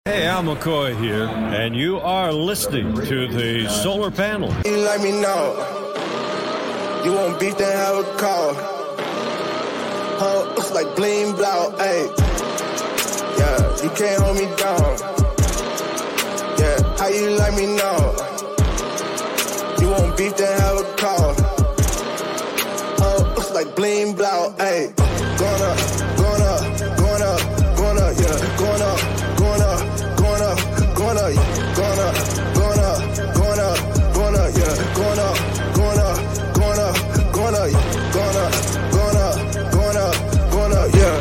Hey, Al McCoy here, and you are listening to the Solar Panel. You like me now. You want beef, then have a call. Looks like bling blow, ayy. Yeah, you can't hold me down. Yeah, how you like me now? You want beef, then have a call. Looks like bling blow, ayy. Going up, going up, going up, going up, yeah, going up, going up. Going up, going up, going up, going up, going up, yeah, going up, going up, going up, going up, going up, going up, going up, going up, yeah.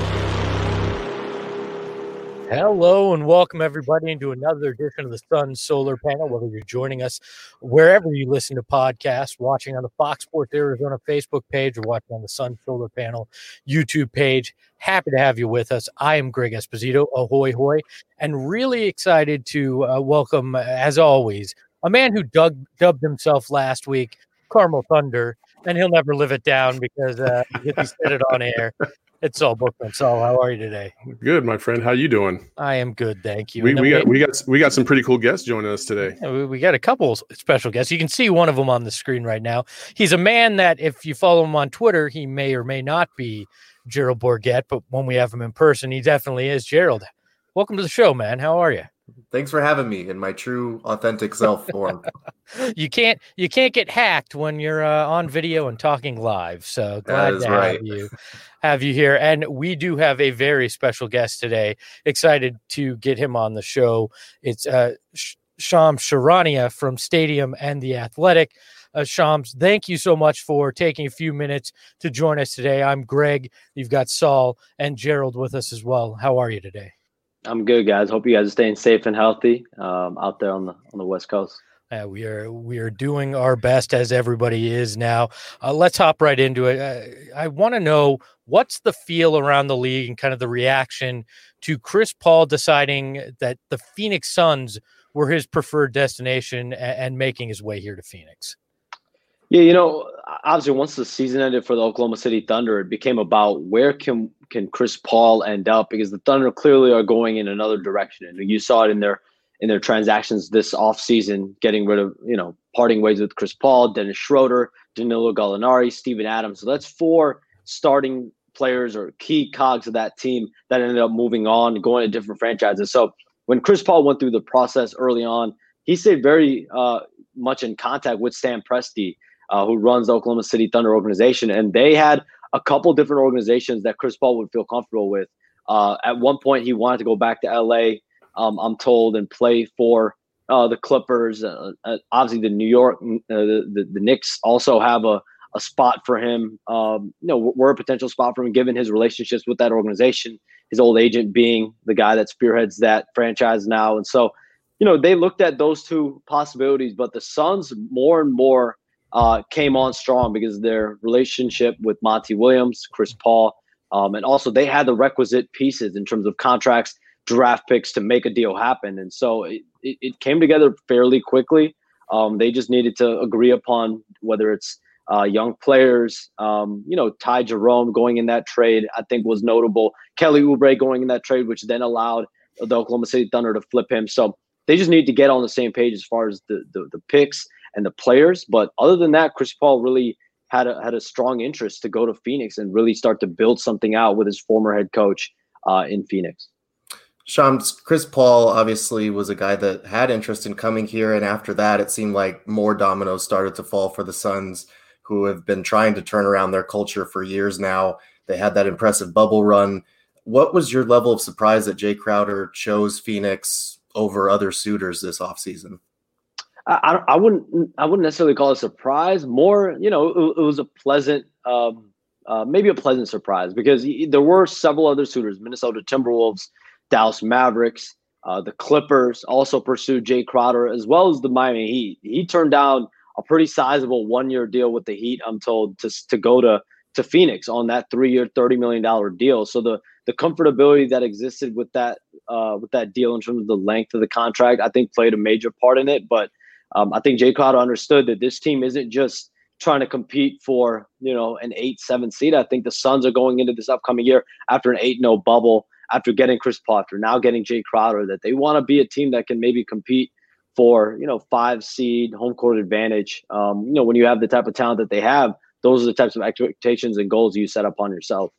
Hello and welcome everybody into another edition of the Sun Solar Panel. Whether you're joining us wherever you listen to podcasts, watching on the Fox Sports Arizona Facebook page or watching on the Sun Solar Panel YouTube page, happy to have you with us. I am Greg Esposito, ahoy hoy, and really excited to welcome, as always, a man who dubbed himself last week Carmel Thunder, and he'll never live it down because he said it on air. It's Saul Bookman. Saul, how are you today? Good, my friend. How you doing? I am good, thank you. We got some pretty cool guests joining us today. We got a couple special guests. You can see one of them on the screen right now. He's a man that, if you follow him on Twitter, he may or may not be Gerald Bourguet, but when we have him in person, he definitely is. Gerald, welcome to the show, man. How are you? Thanks for having me in my true, authentic self form. You can't get hacked when you're on video and talking live. So glad to have you here. And we do have a very special guest today. Excited to get him on the show. It's Shams Charania from Stadium and The Athletic. Shams, thank you so much for taking a few minutes to join us today. I'm Greg. You've got Saul and Gerald with us as well. How are you today? I'm good, guys. Hope you guys are staying safe and healthy out there on the West Coast. We are doing our best, as everybody is now. Let's hop right into it. I want to know, what's the feel around the league and kind of the reaction to Chris Paul deciding that the Phoenix Suns were his preferred destination and making his way here to Phoenix? Yeah, obviously once the season ended for the Oklahoma City Thunder, it became about where can Chris Paul end up, because the Thunder clearly are going in another direction. And you saw it in their transactions this offseason, getting rid of, parting ways with Chris Paul, Dennis Schroeder, Danilo Gallinari, Steven Adams. So that's four starting players or key cogs of that team that ended up moving on and going to different franchises. So when Chris Paul went through the process early on, he stayed very much in contact with Stan Presti, who runs the Oklahoma City Thunder organization. And they had a couple different organizations that Chris Paul would feel comfortable with. At one point, he wanted to go back to LA, I'm told, and play for the Clippers. Obviously, the New York, the Knicks also have a spot for him. We're a potential spot for him, given his relationships with that organization, his old agent being the guy that spearheads that franchise now. And so, they looked at those two possibilities, but the Suns more and more came on strong because their relationship with Monty Williams, Chris Paul, and also they had the requisite pieces in terms of contracts, draft picks to make a deal happen. And so it came together fairly quickly. They just needed to agree upon whether it's young players, Ty Jerome going in that trade, I think was notable. Kelly Oubre going in that trade, which then allowed the Oklahoma City Thunder to flip him. So they just need to get on the same page as far as the picks and the players. But other than that, Chris Paul really had a strong interest to go to Phoenix and really start to build something out with his former head coach in Phoenix. Shams, Chris Paul obviously was a guy that had interest in coming here. And after that, it seemed like more dominoes started to fall for the Suns, who have been trying to turn around their culture for years now. They had that impressive bubble run. What was your level of surprise that Jay Crowder chose Phoenix over other suitors this offseason? I wouldn't necessarily call it a surprise. More, it was a pleasant, maybe a pleasant surprise, because there were several other suitors: Minnesota Timberwolves, Dallas Mavericks, the Clippers also pursued Jay Crowder, as well as the Miami Heat. He turned down a pretty sizable one-year deal with the Heat, I'm told, to go to Phoenix on that 3-year, $30 million deal. So the comfortability that existed with that deal in terms of the length of the contract, I think played a major part in it. But I think Jay Crowder understood that this team isn't just trying to compete for, an 8-7 seed. I think the Suns are going into this upcoming year after an 8-0 bubble, after getting Chris Paul, after now getting Jay Crowder, that they want to be a team that can maybe compete for, 5 seed home court advantage. When you have the type of talent that they have, those are the types of expectations and goals you set up on yourself.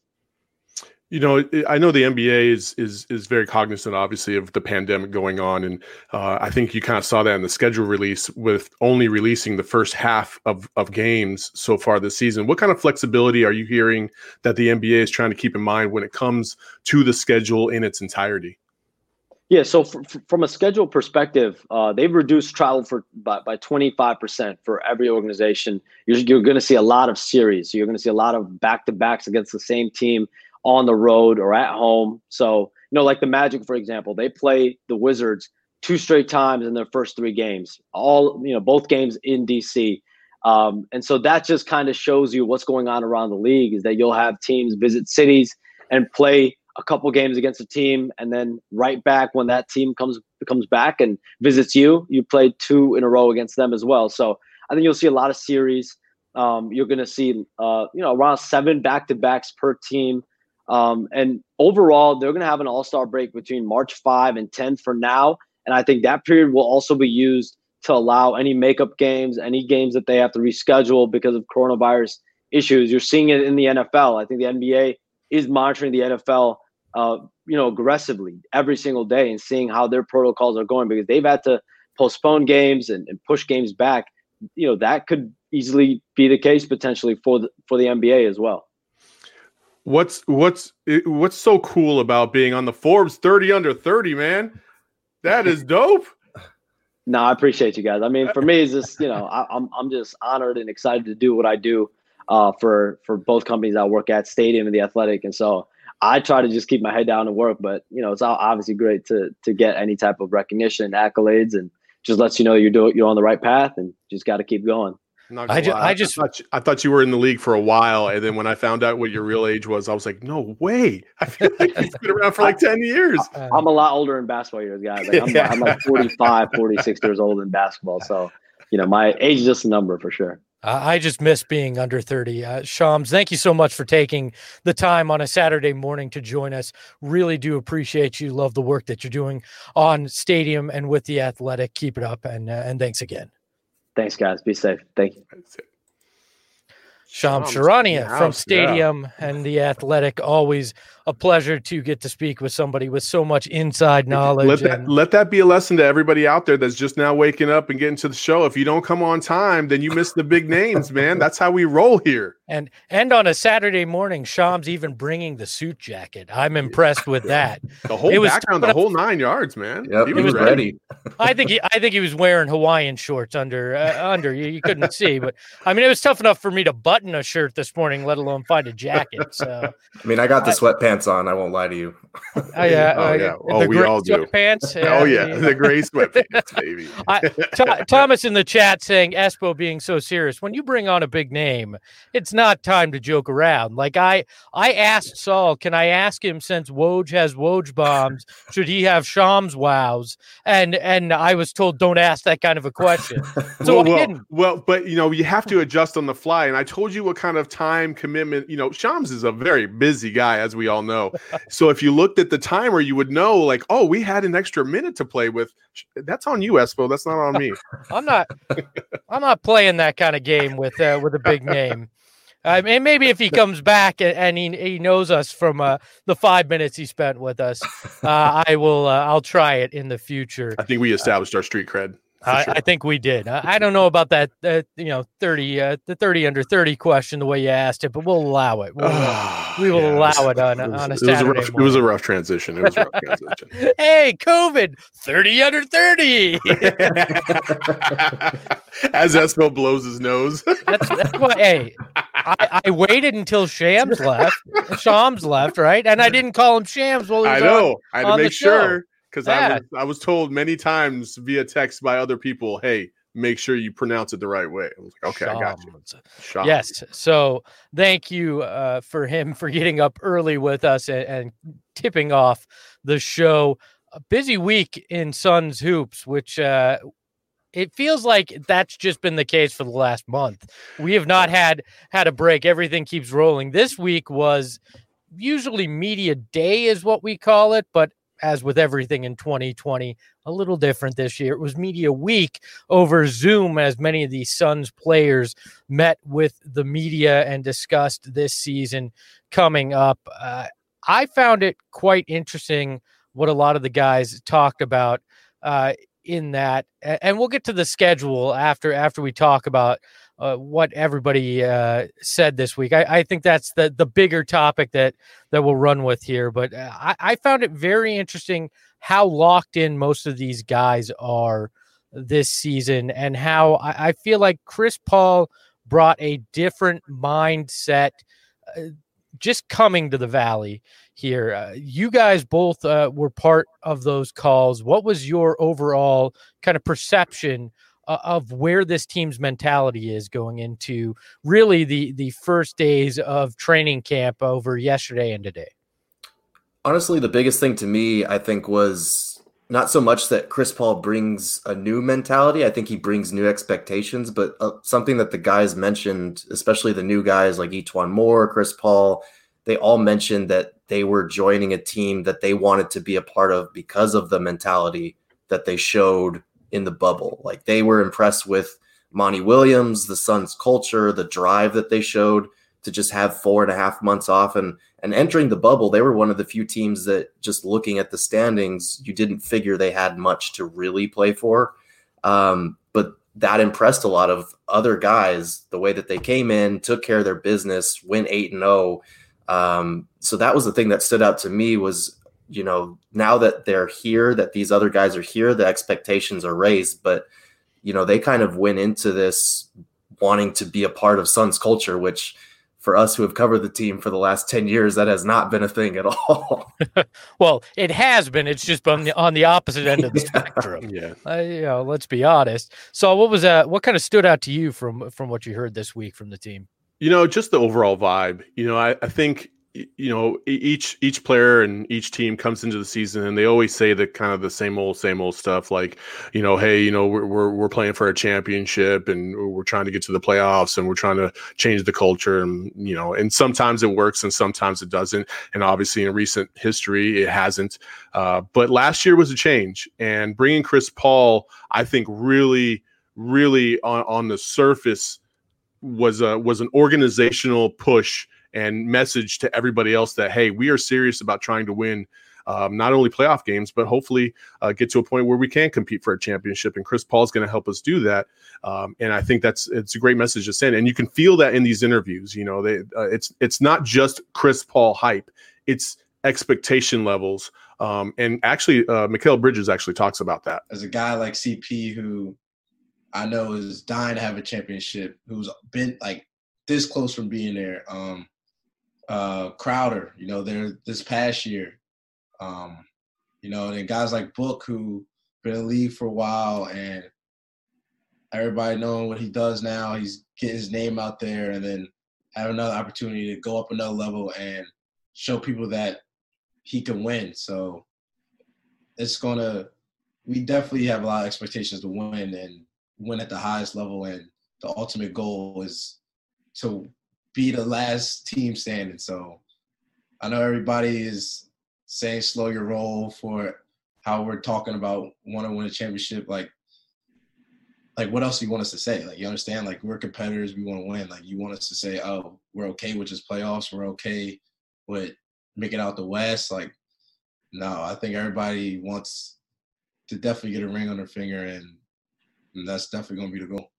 I know the NBA is very cognizant, obviously, of the pandemic going on, and I think you kind of saw that in the schedule release with only releasing the first half of games so far this season. What kind of flexibility are you hearing that the NBA is trying to keep in mind when it comes to the schedule in its entirety? Yeah, so from a schedule perspective, they've reduced travel by 25% for every organization. You're going to see a lot of series. You're going to see a lot of back-to-backs against the same team on the road or at home. So, like the Magic, for example, they play the Wizards 2 straight times in their first 3 games, both games in DC. And so that just kind of shows you what's going on around the league, is that you'll have teams visit cities and play a couple games against a team, and then right back when that team comes back and visits you play 2 in a row against them as well. So I think you'll see a lot of series. You're going to see, around 7 back-to-backs per team. And overall, they're going to have an all-star break between March 5 and 10 for now. And I think that period will also be used to allow any makeup games, any games that they have to reschedule because of coronavirus issues. You're seeing it in the NFL. I think the NBA is monitoring the NFL, aggressively every single day and seeing how their protocols are going, because they've had to postpone games and push games back. That could easily be the case potentially for the NBA as well. What's so cool about being on the Forbes 30 under 30, man? That is dope. No, I appreciate you guys. I mean, for me, it's just, I'm just honored and excited to do what I do for both companies I work at, Stadium and The Athletic. And so I try to just keep my head down and work, but it's obviously great to get any type of recognition, accolades, and just lets you know you're on the right path and just got to keep going. I thought you were in the league for a while, and then when I found out what your real age was, I was like, no way. I feel like you've been around for like 10 years. I'm a lot older in basketball years, guys. I'm like 45, 46 years old in basketball. So, my age is just a number for sure. I just miss being under 30. Shams, thank you so much for taking the time on a Saturday morning to join us. Really do appreciate you. Love the work that you're doing on Stadium and with The Athletic. Keep it up, and thanks again. Thanks, guys. Be safe. Thank you. Shams Charania from Stadium and The Athletic. Always a pleasure to get to speak with somebody with so much inside knowledge. Let that be a lesson to everybody out there that's just now waking up and getting to the show. If you don't come on time, then you miss the big names, man. That's how we roll here. And on a Saturday morning, Shams even bringing the suit jacket. I'm impressed with that. The whole background, the whole 9 yards, man. Yep, he was ready. I think he was wearing Hawaiian shorts under. You couldn't see, but I mean, it was tough enough for me to button a shirt this morning, let alone find a jacket. So I mean, I got the sweatpants on. I won't lie to you. We all do. Sweatpants. The gray sweatpants, baby. Thomas in the chat saying Espo being so serious. When you bring on a big name, it's not time to joke around. Like I asked Saul, can I ask him, since Woj has Woj bombs, should he have Shams wows? And I was told don't ask that kind of a question. So I didn't. Well, but you have to adjust on the fly. And I told you what kind of time commitment. Shams is a very busy guy, as we all know. So if you looked at the timer, you would know, like, oh, we had an extra minute to play with. That's on you, Espo. That's not on me. I'm not playing that kind of game with a big name. And maybe if he comes back and he knows us from the 5 minutes he spent with us, I'll try it in the future. I think we established our street cred. I think we did. I don't know about that, 30 under 30 question, the way you asked it, but we'll allow it. We will allow it on a Saturday. It was a rough transition. Hey, COVID, 30 under 30. As Espo blows his nose. That's why. Hey, I waited until Shams left, right? And I didn't call him Shams while he was I had to make sure. Because I was told many times via text by other people, hey, make sure you pronounce it the right way. I was like, okay, I got you. Yes. So thank you for him for getting up early with us and tipping off the show. A busy week in Suns hoops, which it feels like that's just been the case for the last month. We have not had a break. Everything keeps rolling. This week was usually media day is what we call it, but as with everything in 2020, a little different this year. It was media week over Zoom as many of these Suns players met with the media and discussed this season coming up. I found it quite interesting what a lot of the guys talked about in that, and we'll get to the schedule after we talk about what everybody said this week. I think that's the bigger topic that we'll run with here. But I found it very interesting how locked in most of these guys are this season, and how I feel like Chris Paul brought a different mindset just coming to the Valley here. You guys both were part of those calls. What was your overall kind of perception of where this team's mentality is going into really the first days of training camp over yesterday and today? Honestly, the biggest thing to me, I think, was not so much that Chris Paul brings a new mentality. I think he brings new expectations, but something that the guys mentioned, especially the new guys like E'Twaun Moore, Chris Paul, they all mentioned that they were joining a team that they wanted to be a part of because of the mentality that they showed in the bubble. Like, they were impressed with Monty Williams, the Suns culture, the drive that they showed to just have 4.5 months off. And entering the bubble, they were one of the few teams that, just looking at the standings, you didn't figure they had much to really play for. But that impressed a lot of other guys, the way that they came in, took care of their business, went 8-0. So that was the thing that stood out to me was, you know, now that they're here, that these other guys are here, the expectations are raised, but, you know, they kind of went into this wanting to be a part of Suns culture, which for us who have covered the team for the last 10 years, that has not been a thing at all. Well, it has been. It's just been on the opposite end of the spectrum. Yeah. You know, let's be honest. So what kind of stood out to you from what you heard this week from the team? You know, just the overall vibe. You know, I think, you know, each player and each team comes into the season and they always say the kind of the same old stuff, like, you know, hey, you know, we're playing for a championship and we're trying to get to the playoffs and we're trying to change the culture, and, you know, and sometimes it works and sometimes it doesn't, and obviously in recent history it hasn't. But last year was a change, and bringing Chris Paul, I think, really on the surface was an organizational push and message to everybody else that, hey, we are serious about trying to win not only playoff games, but hopefully get to a point where we can compete for a championship. And Chris Paul is going to help us do that. And I think it's a great message to send. And you can feel that in these interviews. You know, it's not just Chris Paul hype; it's expectation levels. And actually, Mikal Bridges actually talks about that. As a guy like CP, who I know is dying to have a championship, who's been like this close from being there. Crowder, you know, there this past year, you know, and then guys like Book, who been in the league for a while, and everybody knowing what he does now, he's getting his name out there, and then have another opportunity to go up another level and show people that he can win. So we definitely have a lot of expectations to win and win at the highest level, and the ultimate goal is to be the last team standing. So I know everybody is saying slow your roll for how we're talking about want to win a championship. Like what else do you want us to say? Like, you understand, like, we're competitors, we want to win. Like, you want us to say, oh, we're okay with just playoffs, we're okay with making out the West. Like, no, I think everybody wants to definitely get a ring on their finger, and that's definitely going to be the goal.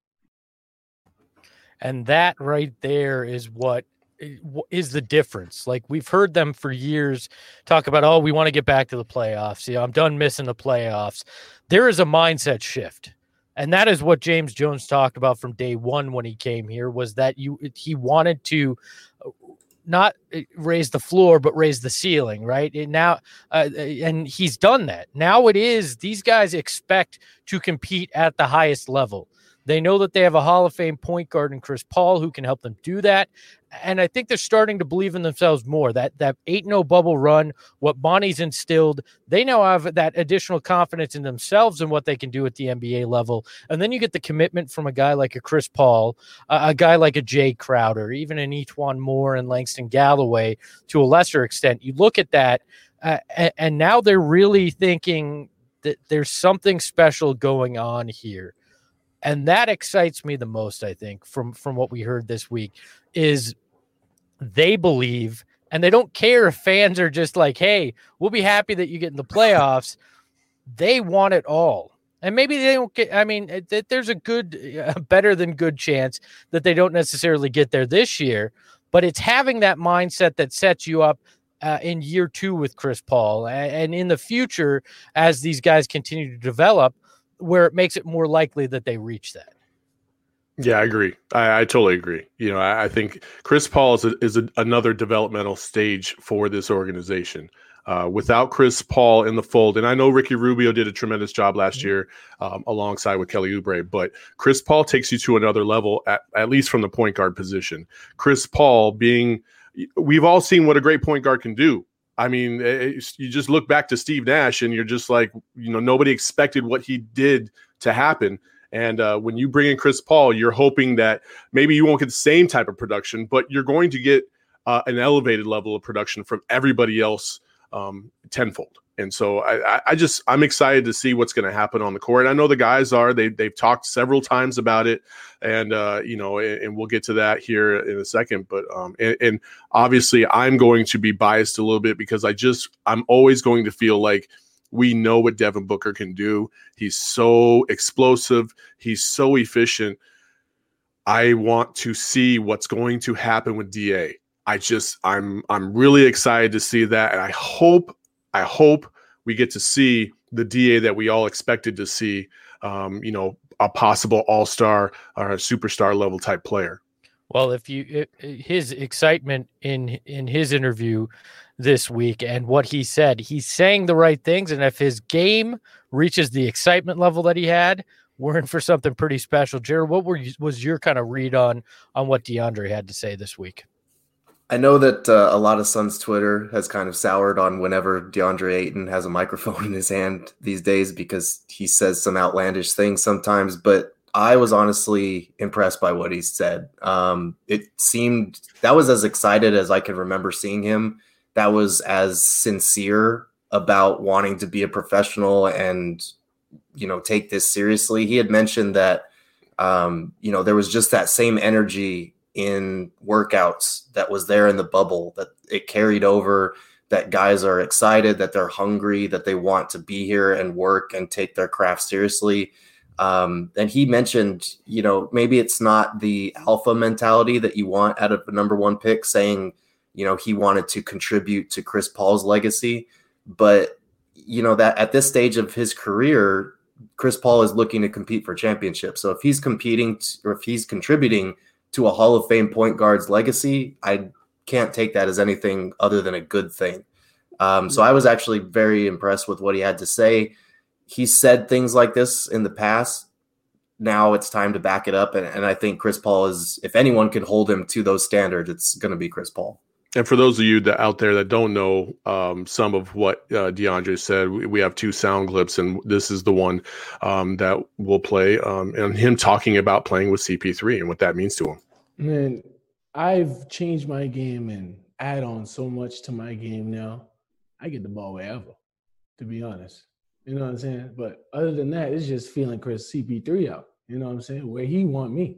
And that right there is what is the difference. Like, we've heard them for years talk about, oh, we want to get back to the playoffs. You know, I'm done missing the playoffs. There is a mindset shift. And that is what James Jones talked about from day one when he came here, was that he wanted to not raise the floor, but raise the ceiling, right? And now, and he's done that. Now it is, these guys expect to compete at the highest level. They know that they have a Hall of Fame point guard in Chris Paul who can help them do that. And I think they're starting to believe in themselves more. That 8-0 bubble run, what Bonnie's instilled, they now have that additional confidence in themselves and what they can do at the NBA level. And then you get the commitment from a guy like a Chris Paul, a guy like a Jay Crowder, even an Etuan Moore and Langston Galloway to a lesser extent. You look at that, and now they're really thinking that there's something special going on here. And that excites me the most, I think, from what we heard this week, is they believe, and they don't care if fans are just like, hey, we'll be happy that you get in the playoffs. They want it all. And maybe they don't get, I mean, there's a better than good chance that they don't necessarily get there this year, but it's having that mindset that sets you up in year 2 with Chris Paul and in the future as these guys continue to develop, where it makes it more likely that they reach that. Yeah, I agree. I totally agree. I think Chris Paul is another developmental stage for this organization. Without Chris Paul in the fold, and I know Ricky Rubio did a tremendous job last year alongside with Kelly Oubre, but Chris Paul takes you to another level, at least from the point guard position. Chris Paul we've all seen what a great point guard can do. I mean, you just look back to Steve Nash and you're just like, nobody expected what he did to happen. And when you bring in Chris Paul, you're hoping that maybe you won't get the same type of production, but you're going to get an elevated level of production from everybody else tenfold. And so I'm excited to see what's going to happen on the court. I know the guys are. They've talked several times about it, and and we'll get to that here in a second. But and obviously, I'm going to be biased a little bit because I'm always going to feel like we know what Devin Booker can do. He's so explosive. He's so efficient. I want to see what's going to happen with DA. I'm really excited to see that, and I hope we get to see the DA that we all expected to see, a possible all-star or a superstar level type player. Well, his excitement in his interview this week and what he said, he's saying the right things. And if his game reaches the excitement level that he had, we're in for something pretty special. Jared, what was your kind of read on what DeAndre had to say this week? I know that a lot of Suns Twitter has kind of soured on whenever DeAndre Ayton has a microphone in his hand these days because he says some outlandish things sometimes, but I was honestly impressed by what he said. It seemed that was as excited as I can remember seeing him. That was as sincere about wanting to be a professional and, take this seriously. He had mentioned that, there was just that same energy in workouts that was there in the bubble, that it carried over, that guys are excited, that they're hungry, that they want to be here and work and take their craft seriously. And he mentioned, maybe it's not the alpha mentality that you want out of the number 1 pick, saying, he wanted to contribute to Chris Paul's legacy, but that at this stage of his career, Chris Paul is looking to compete for championships. So if he's competing or if he's contributing to a Hall of Fame point guard's legacy, I can't take that as anything other than a good thing. So I was actually very impressed with what he had to say. He said things like this in the past. Now it's time to back it up. And I think Chris Paul is, if anyone can hold him to those standards, it's going to be Chris Paul. And for those of you out there that don't know some of what DeAndre said, we have 2 sound clips, and this is the one that we'll play, and him talking about playing with CP3 and what that means to him. Man, I've changed my game and add on so much to my game now. I get the ball wherever, to be honest. You know what I'm saying? But other than that, it's just feeling Chris CP3 out. You know what I'm saying? Where he want me,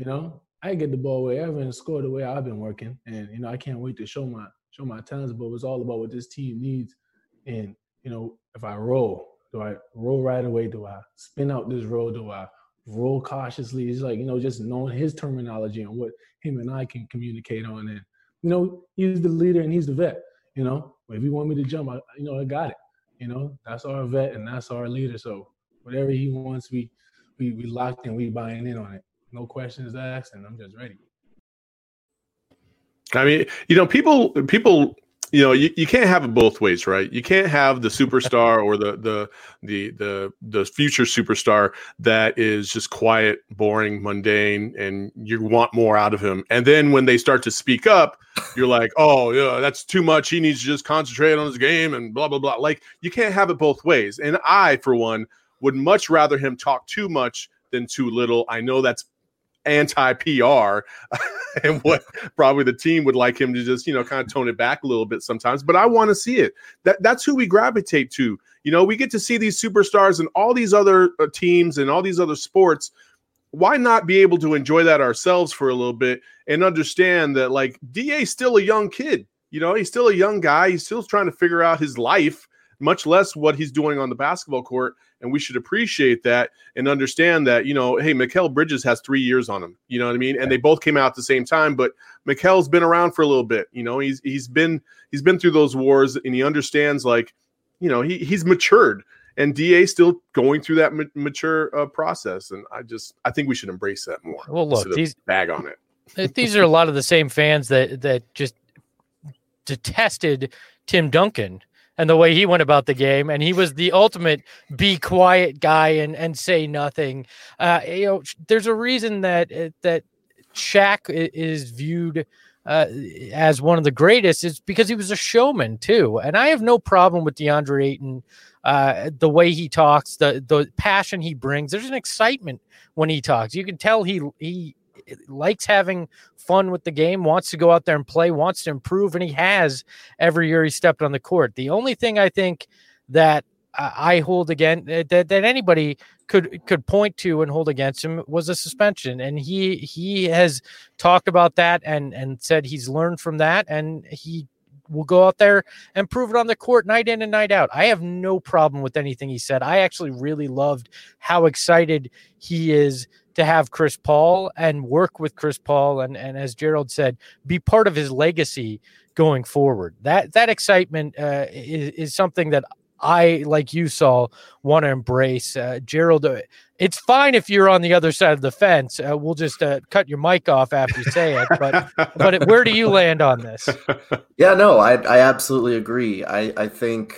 I get the ball wherever and score the way I've been working. And, I can't wait to show my talents, but it's all about what this team needs. And, if I roll, do I roll right away? Do I spin out this roll? Do I roll cautiously? It's like, just knowing his terminology and what him and I can communicate on. And, he's the leader and he's the vet, If you want me to jump, I got it. That's our vet and that's our leader. So whatever he wants, we locked in, we buying in on it. No questions asked, and I'm just ready. I mean, people you can't have it both ways, right? You can't have the superstar or the future superstar that is just quiet, boring, mundane, and you want more out of him. And then when they start to speak up, you're like, oh yeah, that's too much. He needs to just concentrate on his game and blah blah blah. Like, you can't have it both ways. And I, for one, would much rather him talk too much than too little. I know that's anti-PR and what probably the team would like him to just, kind of tone it back a little bit sometimes, but I want to see it. That's who we gravitate to. We get to see these superstars and all these other teams and all these other sports. Why not be able to enjoy that ourselves for a little bit and understand that, like, DA's still a young kid, he's still a young guy. He's still trying to figure out his life, much less what he's doing on the basketball court. And we should appreciate that and understand that, hey, Mikal Bridges has 3 years on him. You know what I mean? And they both came out at the same time, but Mikal's been around for a little bit. He's been through those wars, and he understands, like, he's matured, and DA's still going through that mature process. And I think we should embrace that more. Well, look, these bag on it. These are a lot of the same fans that just detested Tim Duncan and the way he went about the game. And he was the ultimate be quiet guy and say nothing. There's a reason that Shaq is viewed as one of the greatest. Is because he was a showman too. And I have no problem with DeAndre Ayton, the way he talks, the passion he brings. There's an excitement when he talks. You can tell he likes having fun with the game, wants to go out there and play, wants to improve, and he has every year he stepped on the court. The only thing I think that I hold against that anybody could point to and hold against him was a suspension, and he has talked about that and said he's learned from that, and he will go out there and prove it on the court night in and night out. I have no problem with anything he said. I actually really loved how excited he is to have Chris Paul and work with Chris Paul and as Gerald said, be part of his legacy going forward. That excitement is something that I, like you, Saul, want to embrace. Gerald, it's fine if you're on the other side of the fence. We'll just cut your mic off after you say it. But where do you land on this? Yeah, no, I absolutely agree. I think,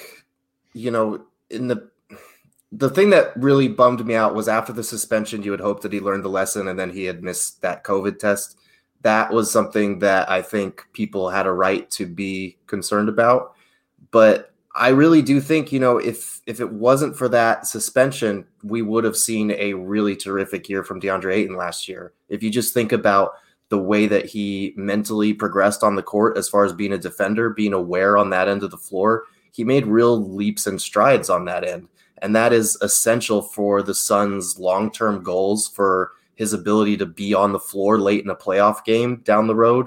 in the thing that really bummed me out was after the suspension, you had hoped that he learned the lesson, and then he had missed that COVID test. That was something that I think people had a right to be concerned about. But I really do think, if it wasn't for that suspension, we would have seen a really terrific year from DeAndre Ayton last year. If you just think about the way that he mentally progressed on the court as far as being a defender, being aware on that end of the floor, he made real leaps and strides on that end. And that is essential for the Suns' long-term goals, for his ability to be on the floor late in a playoff game down the road.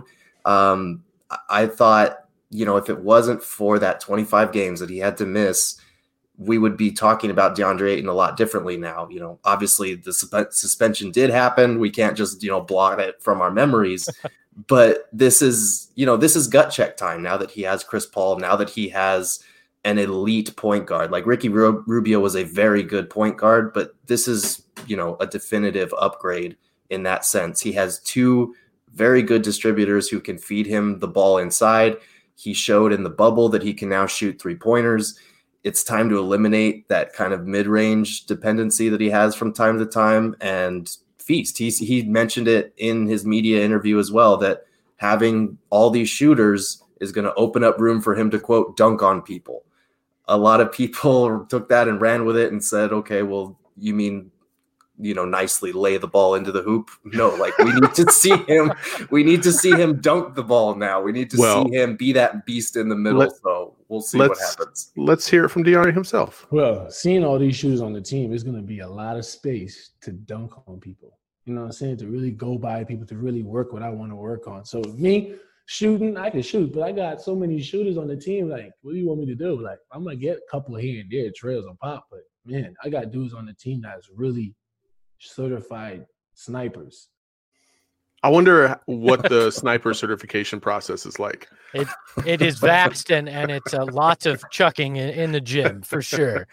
I thought, if it wasn't for that 25 games that he had to miss, we would be talking about DeAndre Ayton a lot differently now. Obviously the suspension did happen. We can't just, blot it from our memories. But this is gut check time now that he has Chris Paul, now that he has an elite point guard. Like Ricky Rubio was a very good point guard, but this is, a definitive upgrade in that sense. He has two very good distributors who can feed him the ball inside. He showed in the bubble that he can now shoot 3-pointers. It's time to eliminate that kind of mid-range dependency that he has from time to time and feast. He mentioned it in his media interview as well, that having all these shooters is going to open up room for him to, quote, dunk on people. A lot of people took that and ran with it and said, okay, well, you mean, nicely lay the ball into the hoop? No, like we need to see him. We need to see him dunk the ball now. We need to see him be that beast in the middle. So we'll see what happens. Let's hear it from DeAndre himself. Well, seeing all these shooters on the team is going to be a lot of space to dunk on people. You know what I'm saying? To really go by people, to really work what I want to work on. So me shooting, I can shoot, but I got so many shooters on the team. Like, what do you want me to do? Like, I'm going to get a couple here and there, trails on pop, but man, I got dudes on the team that's really certified snipers. I wonder what the sniper certification process is like. It is vast and it's lots of chucking in the gym for sure.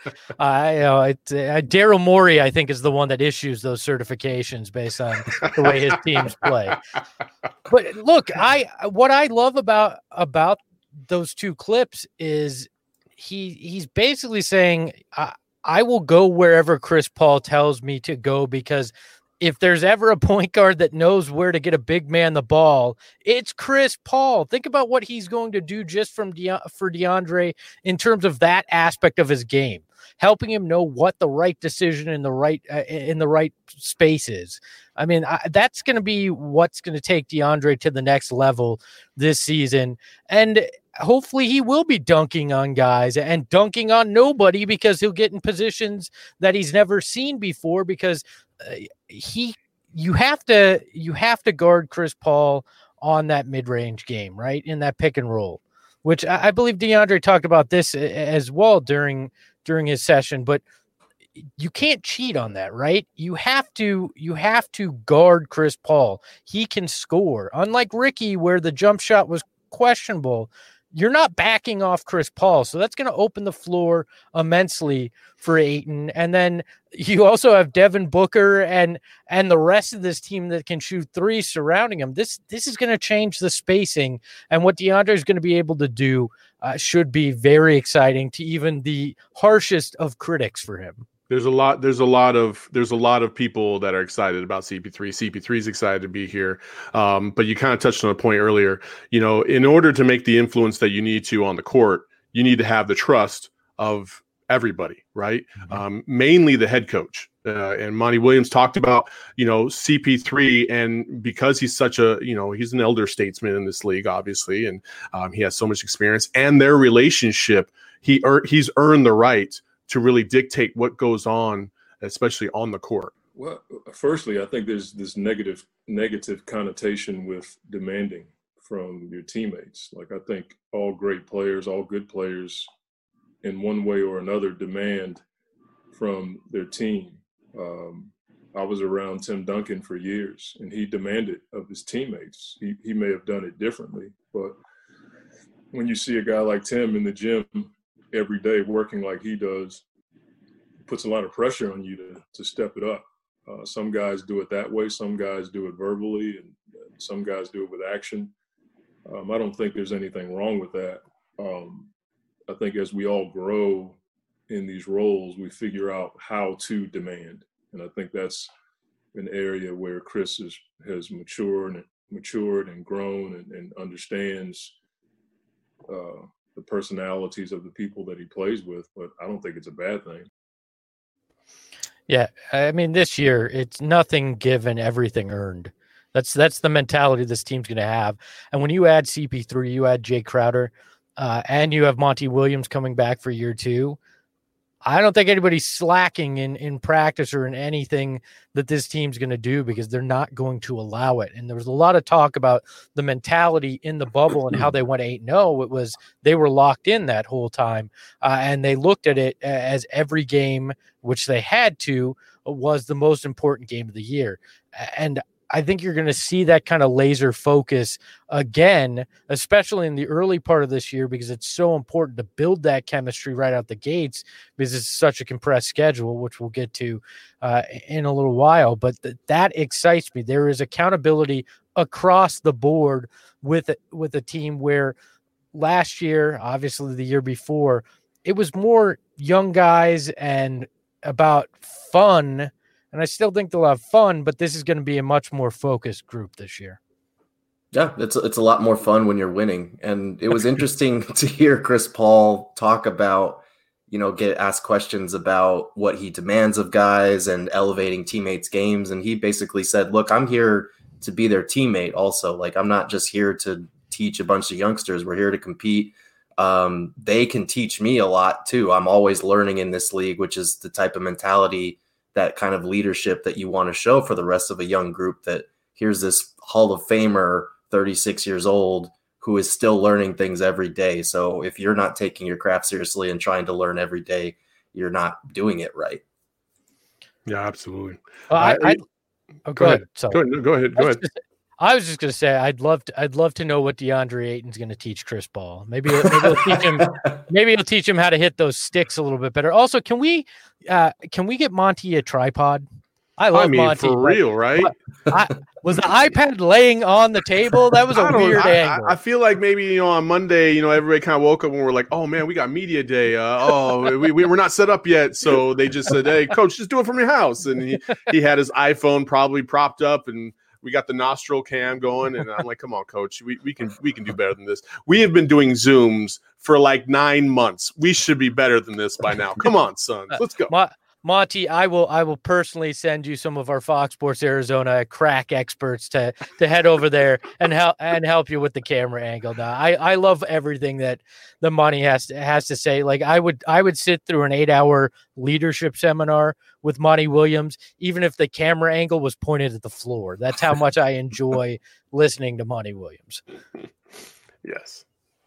Daryl Morey, I think, is the one that issues those certifications based on the way his teams play. But look, what I love about those two clips is he's basically saying, I will go wherever Chris Paul tells me to go, because if there's ever a point guard that knows where to get a big man the ball, it's Chris Paul. Think about what he's going to do just for DeAndre in terms of that aspect of his game, helping him know what the right decision in the right space is. I mean, that's going to be what's going to take DeAndre to the next level this season. And hopefully he will be dunking on guys and dunking on nobody, because he'll get in positions that he's never seen before, because you have to guard Chris Paul on that mid-range game, right? In that pick and roll, which I believe DeAndre talked about this as well during his session, but you can't cheat on that, right? You have to guard Chris Paul. He can score. Unlike Ricky, where the jump shot was questionable, you're not backing off Chris Paul. So that's going to open the floor immensely for Ayton. And then you also have Devin Booker and the rest of this team that can shoot threes surrounding him. This is going to change the spacing, and what DeAndre is going to be able to do should be very exciting to even the harshest of critics for him. There's a lot of people that are excited about CP3. CP3 is excited to be here. But you kind of touched on a point earlier. In order to make the influence that you need to on the court, you need to have the trust of everybody, right? Mm-hmm. Mainly the head coach. And Monty Williams talked about, CP3, and because he's such he's an elder statesman in this league, obviously, and he has so much experience, and their relationship, he's earned the right to really dictate what goes on, especially on the court. Well, firstly, I think there's this negative connotation with demanding from your teammates. Like, I think all great players, all good players, in one way or another, demand from their team. I was around Tim Duncan for years, and he demanded of his teammates. He may have done it differently, but when you see a guy like Tim in the gym every day working like he does, it puts a lot of pressure on you to step it up. Some guys do it that way. Some guys do it verbally, and some guys do it with action. I don't think there's anything wrong with that. I think as we all grow in these roles, we figure out how to demand. And I think that's an area where Chris has matured and grown and understands the personalities of the people that he plays with, but I don't think it's a bad thing. Yeah, I mean, this year it's nothing given, everything earned. That's the mentality this team's going to have. And when you add CP3, you add Jay Crowder, and you have Monty Williams coming back for year 2, I don't think anybody's slacking in practice or in anything that this team's going to do, because they're not going to allow it. And there was a lot of talk about the mentality in the bubble and how they went 8-0. It was they were locked in that whole time, and they looked at it as every game, which they had to, was the most important game of the year. And I think you're going to see that kind of laser focus again, especially in the early part of this year, because it's so important to build that chemistry right out the gates, because it's such a compressed schedule, which we'll get to in a little while. But that excites me. There is accountability across the board with a team where last year, obviously the year before, it was more young guys and about fun. And I still think they'll have fun, but this is going to be a much more focused group this year. Yeah, it's a lot more fun when you're winning. And it was interesting to hear Chris Paul talk about, get asked questions about what he demands of guys and elevating teammates' games. And he basically said, look, I'm here to be their teammate also. Like, I'm not just here to teach a bunch of youngsters. We're here to compete. They can teach me a lot too. I'm always learning in this league, which is the type of mentality, that kind of leadership that you want to show for the rest of a young group, that here's this Hall of Famer, 36 years old, who is still learning things every day. So if you're not taking your craft seriously and trying to learn every day, you're not doing it right. Yeah, absolutely. Well, go ahead. Go ahead. I was just going to say, I'd love to know what DeAndre Ayton's going to teach Chris Paul. Maybe he'll teach him. Maybe he'll teach him how to hit those sticks a little bit better. Also, can we get Monty a tripod? I love mean, Monty. for real, right? Was the iPad laying on the table? That was a weird angle. I feel like maybe, on Monday, everybody kind of woke up and we're like, oh man, we got media day. We're not set up yet. So they just said, hey, coach, just do it from your house. And he had his iPhone probably propped up, and we got the nostril cam going. And I'm like, come on, coach, we can do better than this. We have been doing Zooms for like 9 months. We should be better than this by now. Come on, son, let's go. Monty, I will personally send you some of our Fox Sports Arizona crack experts to head over there and help you with the camera angle. Now, I love everything that the Monty has to say. Like I would sit through an 8-hour leadership seminar with Monty Williams, even if the camera angle was pointed at the floor. That's how much I enjoy listening to Monty Williams. Yes.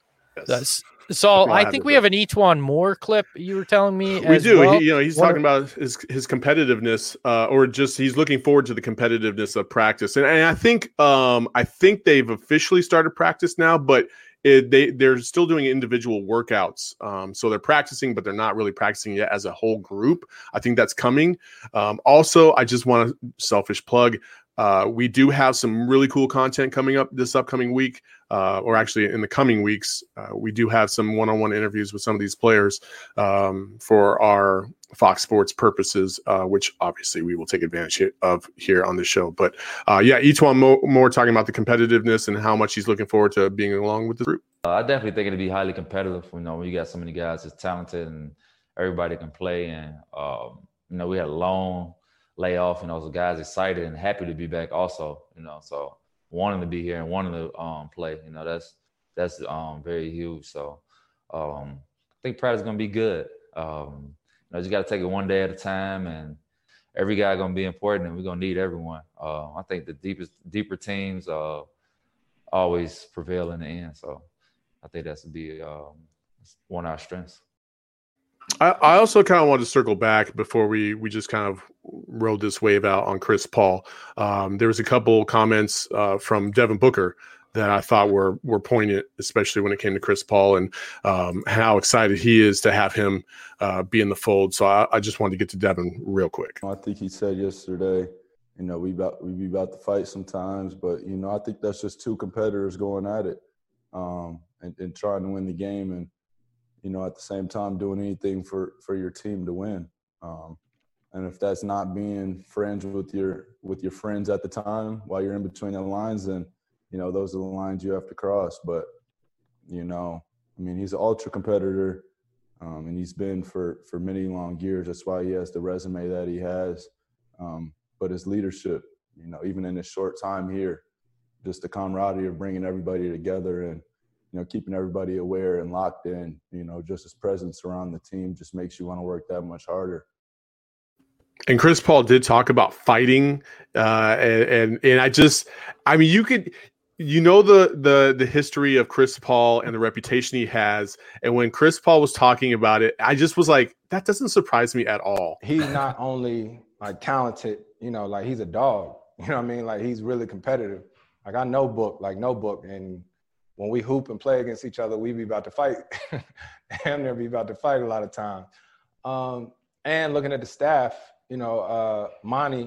So I think we have an E'Twaun Moore clip. You were telling me we do. Well. He's talking about his competitiveness, or just he's looking forward to the competitiveness of practice. And I think they've officially started practice now, but they're still doing individual workouts. So they're practicing, but they're not really practicing yet as a whole group. I think that's coming. Also, I just want to selfish plug. We do have some really cool content coming up this upcoming week, or actually in the coming weeks. We do have some one-on-one interviews with some of these players for our Fox Sports purposes, which obviously we will take advantage of here on the show. But E'Twaun Moore talking about the competitiveness and how much he's looking forward to being along with the group. I definitely think it'll be highly competitive. When you got so many guys that's talented and everybody can play, and we had a long layoff, so guys excited and happy to be back also, so wanting to be here and wanting to play, that's very huge. So I think practice is going to be good. Just got to take it one day at a time, and every guy going to be important, and we're going to need everyone. I think the deeper teams always prevail in the end. So I think that's to be one of our strengths. I also kind of wanted to circle back before we just kind of rode this wave out on Chris Paul. There was a couple comments from Devin Booker that I thought were poignant, especially when it came to Chris Paul and how excited he is to have him be in the fold. So I just wanted to get to Devin real quick. I think he said yesterday, we be about to fight sometimes, but I think that's just two competitors going at it and trying to win the game, and at the same time doing anything for your team to win. And if that's not being friends with your friends at the time while you're in between the lines, then those are the lines you have to cross. But he's an ultra competitor, and he's been for many long years. That's why he has the resume that he has. But his leadership, even in his short time here, just the camaraderie of bringing everybody together and keeping everybody aware and locked in, just his presence around the team just makes you want to work that much harder. And Chris Paul did talk about fighting, and you could, the history of Chris Paul and the reputation he has. And when Chris Paul was talking about it, I just was like, that doesn't surprise me at all. He's not only talented, he's a dog, he's really competitive. I know Book, and when we hoop and play against each other, we be about to fight. And they'll be about to fight a lot of times. And looking at the staff, Monty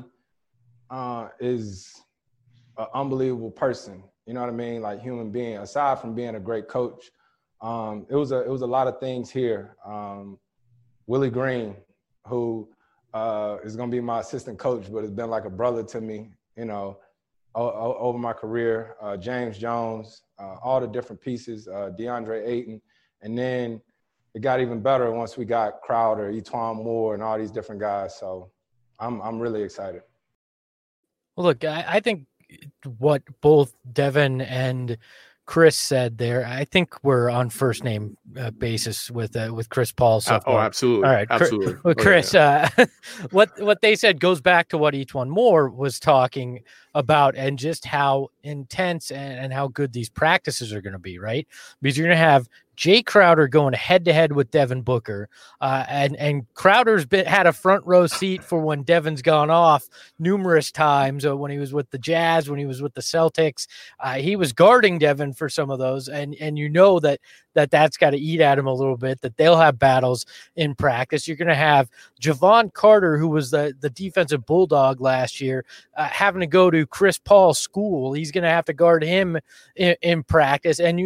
is an unbelievable person. You know what I mean? Like human being. Aside from being a great coach, it was a lot of things here. Willie Green, who is going to be my assistant coach, but has been like a brother to me, over my career. James Jones, all the different pieces, DeAndre Ayton. And then it got even better once we got Crowder, E'Twaun Moore, and all these different guys. So I'm really excited. Well, look, I think what both Devin and Chris said there, I think we're on first name basis with Chris Paul. So oh, absolutely. All right, absolutely. Well, Chris, what they said goes back to what E'Twaun Moore was talking about, and just how intense and how good these practices are going to be, right? Because you're going to have Jay Crowder going head-to-head with Devin Booker, and Crowder's had a front row seat for when Devin's gone off numerous times, when he was with the Jazz, when he was with the Celtics. He was guarding Devin for some of those, and you know that's got to eat at him a little bit, that they'll have battles in practice. You're going to have Javon Carter, who was the defensive bulldog last year, having to go to Chris Paul's school. He's going to have to guard him in practice, and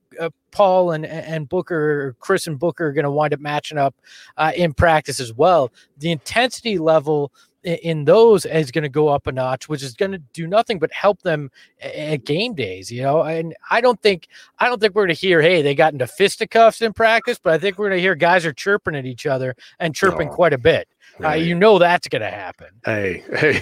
Paul and Booker, Chris and Booker, are going to wind up matching up in practice as well. The intensity level in those is going to go up a notch, which is going to do nothing but help them at game days, and I don't think we're going to hear, hey, they got into fisticuffs in practice, but I think we're going to hear guys are chirping at each other and chirping quite a bit. Right. That's going to happen. Hey,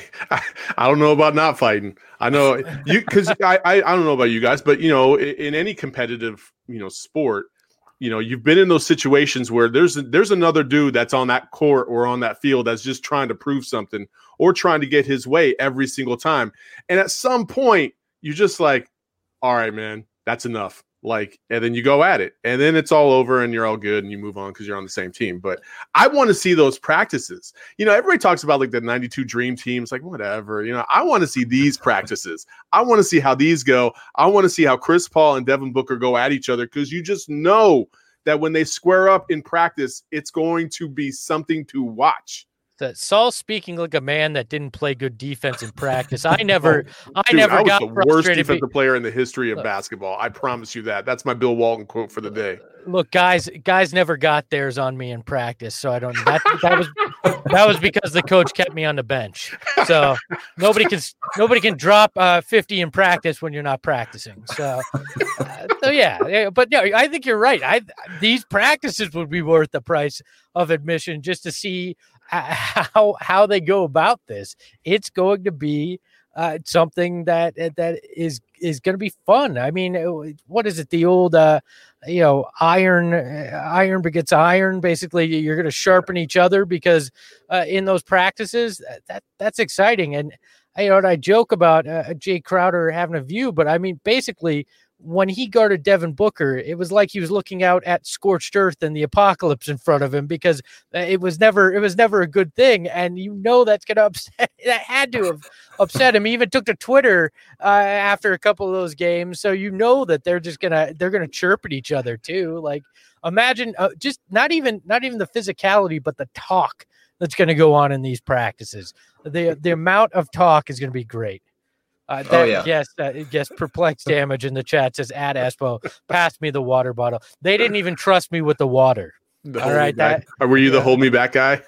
I don't know about not fighting. I know you, because I don't know about you guys, but in any competitive sport, you've been in those situations where there's another dude that's on that court or on that field that's just trying to prove something or trying to get his way every single time. And at some point, you're just like, all right, man, that's enough. And then you go at it, and then it's all over and you're all good and you move on because you're on the same team. But I want to see those practices. Everybody talks about the 92 dream teams, whatever, I want to see these practices. I want to see how these go. I want to see how Chris Paul and Devin Booker go at each other, because you just know that when they square up in practice, it's going to be something to watch. That Saul speaking like a man that didn't play good defense in practice. I was the worst defensive player in the history of basketball. I promise you that. That's my Bill Walton quote for the day. Look, guys never got theirs on me in practice, so I don't. That was because the coach kept me on the bench. So nobody can drop 50 in practice when you're not practicing. So yeah. But no, I think you're right. These practices would be worth the price of admission just to see how they go about this. It's going to be something that is going to be fun. I mean, what is it? The old iron begets iron. Basically, you're going to sharpen each other because in those practices, that's exciting. And I joke about Jay Crowder having a view, but I mean, basically, when he guarded Devin Booker, it was like he was looking out at scorched earth and the apocalypse in front of him, because it was never a good thing. And that's going to upset. That had to have upset him. He even took to Twitter after a couple of those games. So that they're gonna chirp at each other too. Like, imagine just not even the physicality, but the talk that's going to go on in these practices. The amount of talk is going to be great. Yes, perplexed damage in the chat says, at Espo, pass me the water bottle. They didn't even trust me with the water. All right, were you the hold me back guy?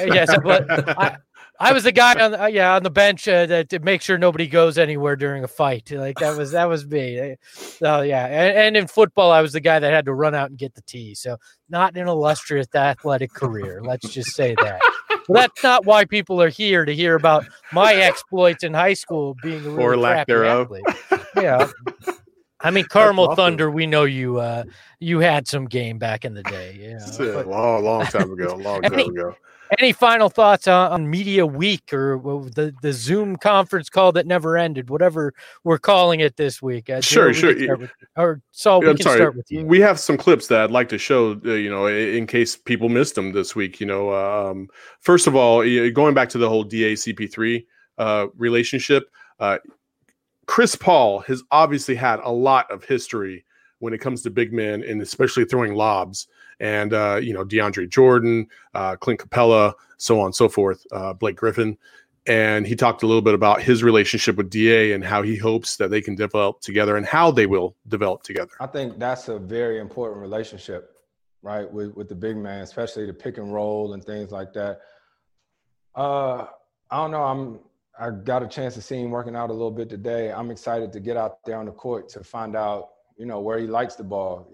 I was the guy on the bench to make sure nobody goes anywhere during a fight. Like that was me. So yeah, and in football, I was the guy that had to run out and get the tee. So not an illustrious athletic career. Let's just say that. Well, that's not why people are here, to hear about my exploits in high school being a really or lack thereof. Yeah. I mean, Carmel Thunder, we know you had some game back in the day. A long time ago. Any final thoughts on Media Week, or the Zoom conference call that never ended, whatever we're calling it this week? Sure. Saul, we can start with you. We have some clips that I'd like to show, in case people missed them this week. First of all, going back to the whole DA CP3 relationship, Chris Paul has obviously had a lot of history when it comes to big men, and especially throwing lobs. And, DeAndre Jordan, Clint Capella, so on and so forth, Blake Griffin. And he talked a little bit about his relationship with DA and how he hopes that they can develop together and how they will develop together. I think that's a very important relationship, right, with the big man, especially the pick and roll and things like that. I don't know. I got a chance to see him working out a little bit today. I'm excited to get out there on the court to find out, where he likes the ball.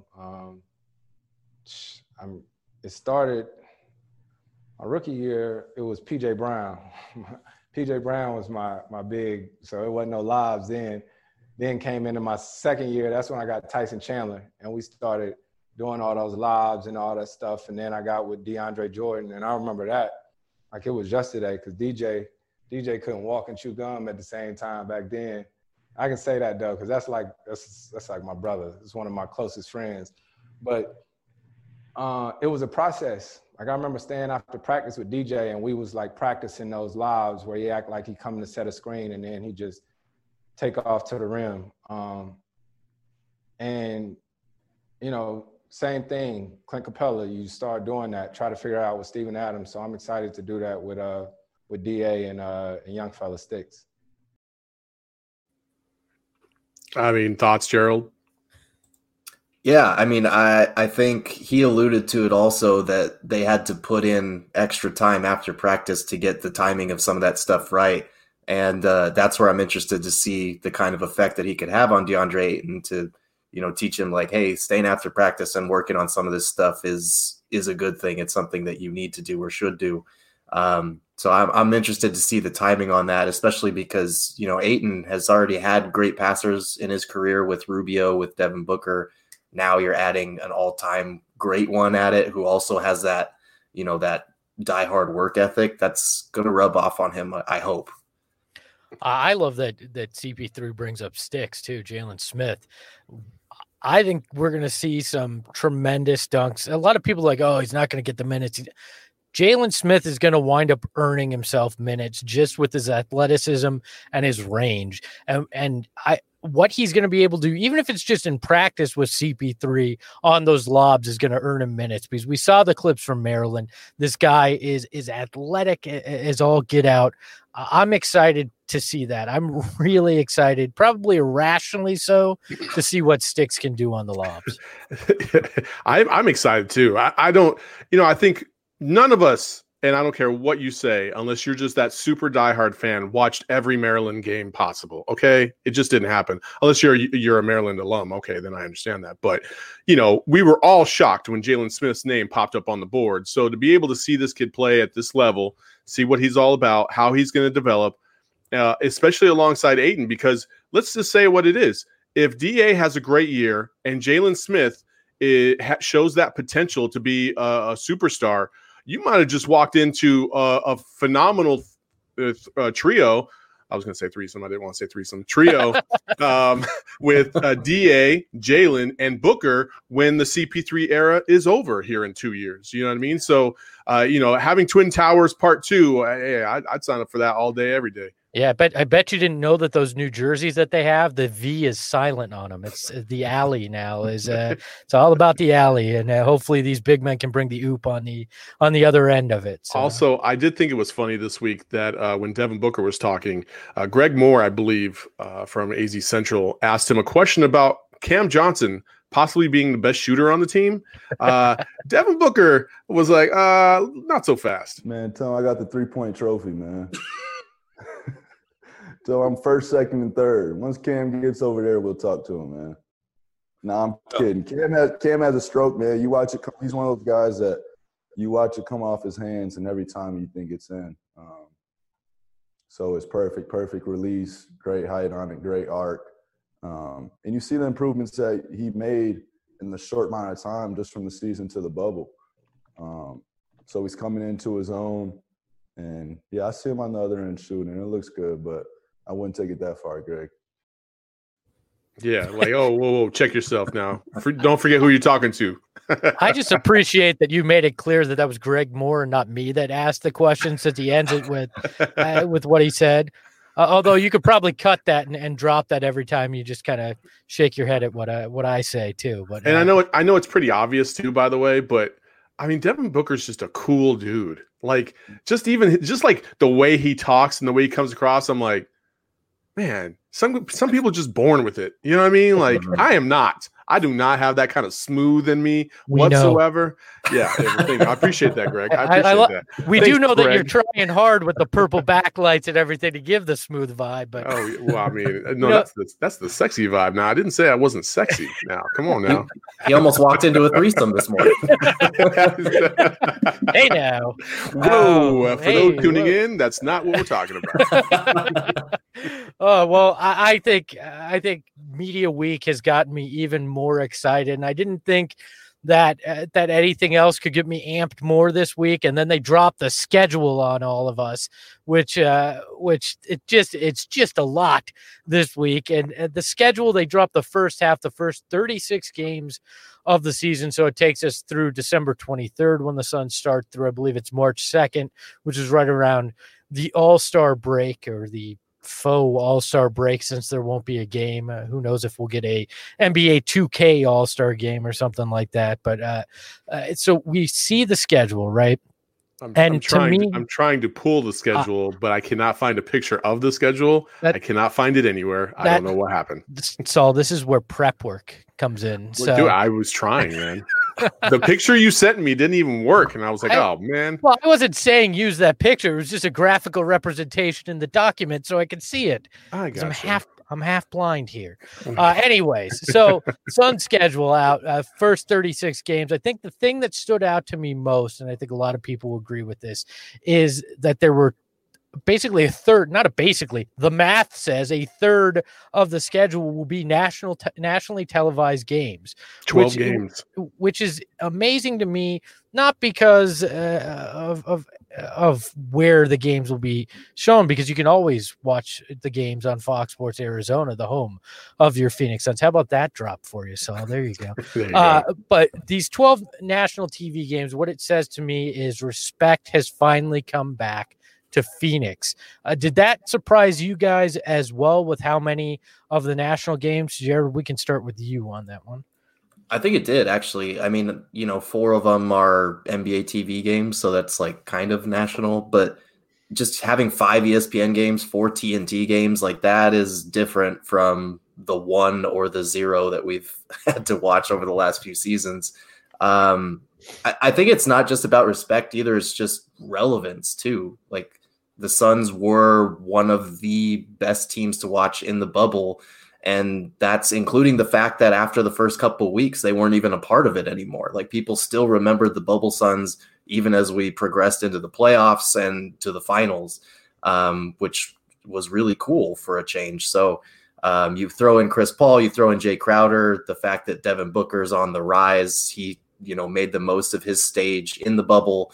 It started my rookie year. It was PJ Brown. PJ Brown was my big, so it wasn't no lobs then. Then came into my second year. That's when I got Tyson Chandler, and we started doing all those lobs and all that stuff. And then I got with DeAndre Jordan, and I remember that like it was yesterday, because DJ couldn't walk and chew gum at the same time back then. I can say that though, because that's like my brother. It's one of my closest friends. But it was a process. Like I remember staying after practice with DJ, and we was like practicing those lobs where he act like he coming to set a screen, and then he just take off to the rim. And you know, same thing, Clint Capella. You start doing that, try to figure out with Steven Adams. So I'm excited to do that with DA and young fella Sticks. I mean, thoughts, Gerald? Yeah, I mean, I think he alluded to it also that they had to put in extra time after practice to get the timing of some of that stuff right. And that's where I'm interested to see the kind of effect that he could have on DeAndre Ayton to, you know, teach him like, hey, staying after practice and working on some of this stuff is a good thing. It's something that you need to do or should do. So I'm interested to see the timing on that, especially because, you know, Ayton has already had great passers in his career with Rubio, with Devin Booker. Now you're adding an all-time great one at it who also has that, you know, that diehard work ethic. That's going to rub off on him, I hope. I love that CP3 brings up Sticks too, Jalen Smith. I think we're going to see some tremendous dunks. A lot of people are like, oh, he's not going to get the minutes. Jalen Smith is going to wind up earning himself minutes just with his athleticism and his range. And what he's going to be able to do, even if it's just in practice with CP3 on those lobs, is going to earn him minutes, because we saw the clips from Maryland. This guy is athletic as all get out. I'm excited to see that. I'm really excited, probably irrationally so, to see what Sticks can do on the lobs. I'm excited too. I don't, you know, I think none of us, and I don't care what you say, unless you're just that super diehard fan, watched every Maryland game possible. Okay, it just didn't happen. Unless you're a Maryland alum. Okay, then I understand that. But you know, we were all shocked when Jalen Smith's name popped up on the board. So to be able to see this kid play at this level, see what he's all about, how he's going to develop, especially alongside Ayton, because let's just say what it is. If DA has a great year and Jalen Smith shows that potential to be a superstar, you might have just walked into a phenomenal trio. I was going to say threesome. I didn't want to say threesome. Trio with DA, Jalen, and Booker when the CP3 era is over here in 2 years. You know what I mean? So, you know, having Twin Towers Part 2, I'd sign up for that all day, every day. Yeah, I bet you didn't know that those new jerseys that they have, the V is silent on them. It's the alley now. It's all about the alley, and hopefully these big men can bring the oop on the other end of it. So. Also, I did think it was funny this week that when Devin Booker was talking, Greg Moore, I believe, from AZ Central, asked him a question about Cam Johnson possibly being the best shooter on the team. Devin Booker was like, not so fast. Man, tell him I got the 3-point trophy, man. So I'm first, second, and third. Once Cam gets over there, we'll talk to him, man. Nah, I'm kidding. Cam has a stroke, man. You watch it. He's one of those guys that you watch it come off his hands, and every time you think it's in. So it's perfect release, great height on it, great arc. And you see the improvements that he made in the short amount of time just from the season to the bubble. So he's coming into his own. And, yeah, I see him on the other end shooting. It looks good, but I wouldn't take it that far, Greg. Yeah, like, oh, whoa, check yourself now. Don't forget who you're talking to. I just appreciate that you made it clear that was Greg Moore and not me that asked the question, since he ends it with what he said. Although you could probably cut that and drop that every time you just kind of shake your head at what I say too. But I know it's pretty obvious too, by the way, but I mean, Devin Booker's just a cool dude. Like, just like the way he talks and the way he comes across, I'm like, man, some people are just born with it. You know what I mean? Like, I am not. I do not have that kind of smooth in me whatsoever. Yeah, I appreciate that, Greg. I appreciate that. We do know that you're trying hard with the purple backlights and everything to give the smooth vibe. But I mean, no, that's the sexy vibe. Now, I didn't say I wasn't sexy. Now, come on now. He almost walked into a threesome this morning. Hey now. Whoa! For those tuning in, that's not what we're talking about. Oh well, I think Media Week has gotten me even more excited, and I didn't think that anything else could get me amped more this week. And then they dropped the schedule on all of us, which it's just a lot this week. And the schedule, they dropped the first 36 games of the season. So it takes us through December 23rd when the Suns start through, I believe it's March 2nd, which is right around the All-Star break, or the faux All-Star break, since there won't be a game. Who knows if we'll get a NBA 2K All-Star game or something like that. But so we see the schedule, right? I'm trying to pull the schedule, but I cannot find a picture of the schedule. I cannot find it anywhere. I don't know what happened. So this is where prep work comes in. So dude, I was trying, man. The picture you sent me didn't even work, and I was like, "Oh man!" Well, I wasn't saying use that picture. It was just a graphical representation in the document, so I could see it. I got I'm half blind here. Anyways, so Sun schedule out, first 36 games. I think the thing that stood out to me most, and I think a lot of people will agree with this, is that there were basically the math says a third of the schedule will be nationally televised games. 12 games. Which is amazing to me, not because of where the games will be shown, because you can always watch the games on Fox Sports Arizona, the home of your Phoenix Suns. How about that drop for you, Saul? There you go. But these 12 national TV games, what it says to me is respect has finally come back to Phoenix. Did that surprise you guys as well with how many of the national games? Jared, we can start with you on that one. I think it did, actually. I mean, 4 of them are NBA TV games, so that's like kind of national, but just having 5 ESPN games, 4 TNT games, like that is different from the 1 or the 0 that we've had to watch over the last few seasons. I think it's not just about respect either. It's just relevance too. Like, the Suns were one of the best teams to watch in the bubble. And that's including the fact that after the first couple of weeks, they weren't even a part of it anymore. Like, people still remembered the bubble Suns, even as we progressed into the playoffs and to the finals, which was really cool for a change. So you throw in Chris Paul, you throw in Jay Crowder, the fact that Devin Booker's on the rise, he, made the most of his stage in the bubble.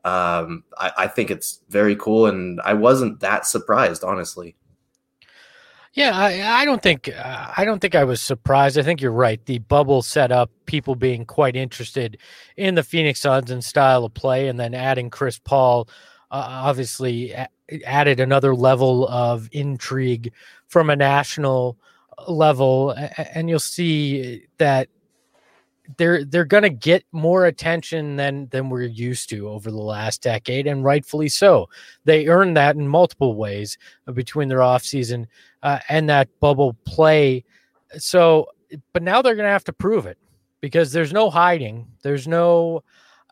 I think it's very cool, and I wasn't that surprised, honestly. Yeah, I don't think I was surprised. I think you're right. The bubble set up people being quite interested in the Phoenix Suns and style of play, and then adding Chris Paul obviously added another level of intrigue from a national level, and you'll see that they're going to get more attention than we're used to over the last decade, and rightfully so. They earned that in multiple ways between their offseason and that bubble play. So, but now they're going to have to prove it, because there's no hiding. There's no,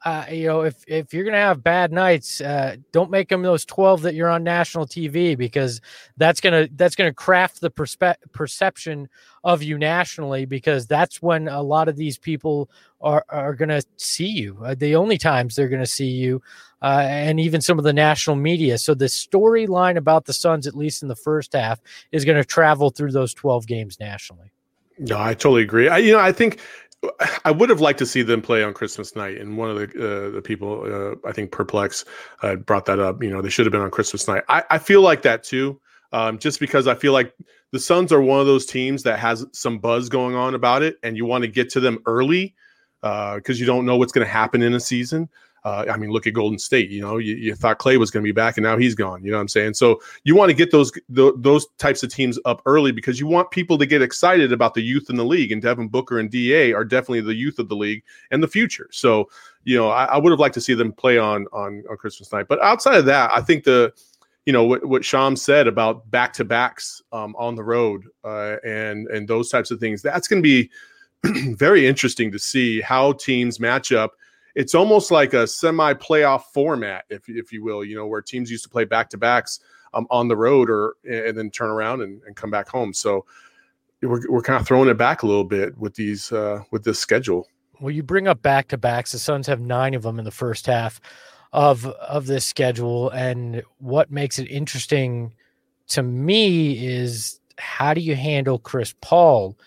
if you're going to have bad nights, don't make them those 12 that you're on national TV, because that's going to craft the perception of you nationally, because that's when a lot of these people are going to see you. The only times they're going to see you, and even some of the national media. So the storyline about the Suns, at least in the first half, is going to travel through those 12 games nationally. No, I totally agree. I think I would have liked to see them play on Christmas night, and one of the people, I think Perplex, brought that up. They should have been on Christmas night. I feel like that too, just because I feel like the Suns are one of those teams that has some buzz going on about it, and you want to get to them early because you don't know what's going to happen in a season. Look at Golden State. You thought Clay was going to be back, and now he's gone. You know what I'm saying? So you want to get those types of teams up early, because you want people to get excited about the youth in the league. And Devin Booker and DA are definitely the youth of the league and the future. So I would have liked to see them play on Christmas night. But outside of that, I think what Sham said about back-to-backs on the road and those types of things, that's going to be very interesting to see how teams match up. It's almost like a semi-playoff format, if you will, where teams used to play back-to-backs on the road and then turn around and come back home. So we're kind of throwing it back a little bit with with this schedule. Well, you bring up back-to-backs. The Suns have 9 of them in the first half of this schedule. And what makes it interesting to me is, how do you handle Chris Paul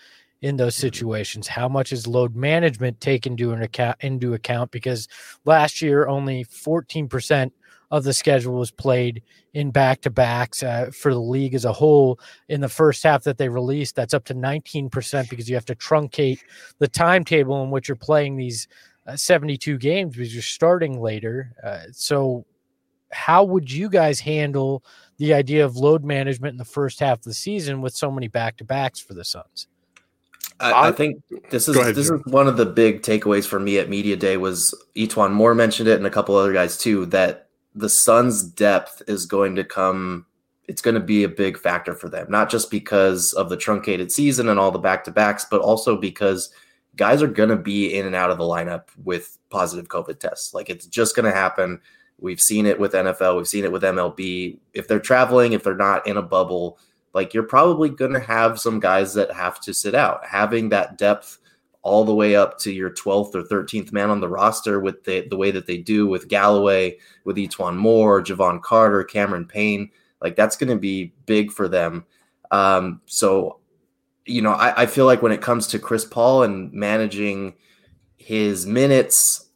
in those situations? How much is load management taken into account? Because last year only 14% of the schedule was played in back-to-backs for the league as a whole in the first half that they released. That's up to 19% because you have to truncate the timetable in which you're playing these 72 games because you're starting later. So how would you guys handle the idea of load management in the first half of the season with so many back-to-backs for the Suns? I think this is one of the big takeaways for me at Media Day was E'Twaun Moore mentioned it and a couple other guys too, that the Suns' depth is going to be a big factor for them, not just because of the truncated season and all the back-to-backs, but also because guys are going to be in and out of the lineup with positive COVID tests. Like, it's just going to happen. We've seen it with NFL. We've seen it with MLB. If they're traveling, if they're not in a bubble, like, you're probably going to have some guys that have to sit out. Having that depth all the way up to your 12th or 13th man on the roster with the way that they do with Galloway, with E'Twaun Moore, Javon Carter, Cameron Payne, like, that's going to be big for them. So, you know, I feel like when it comes to Chris Paul and managing his minutes,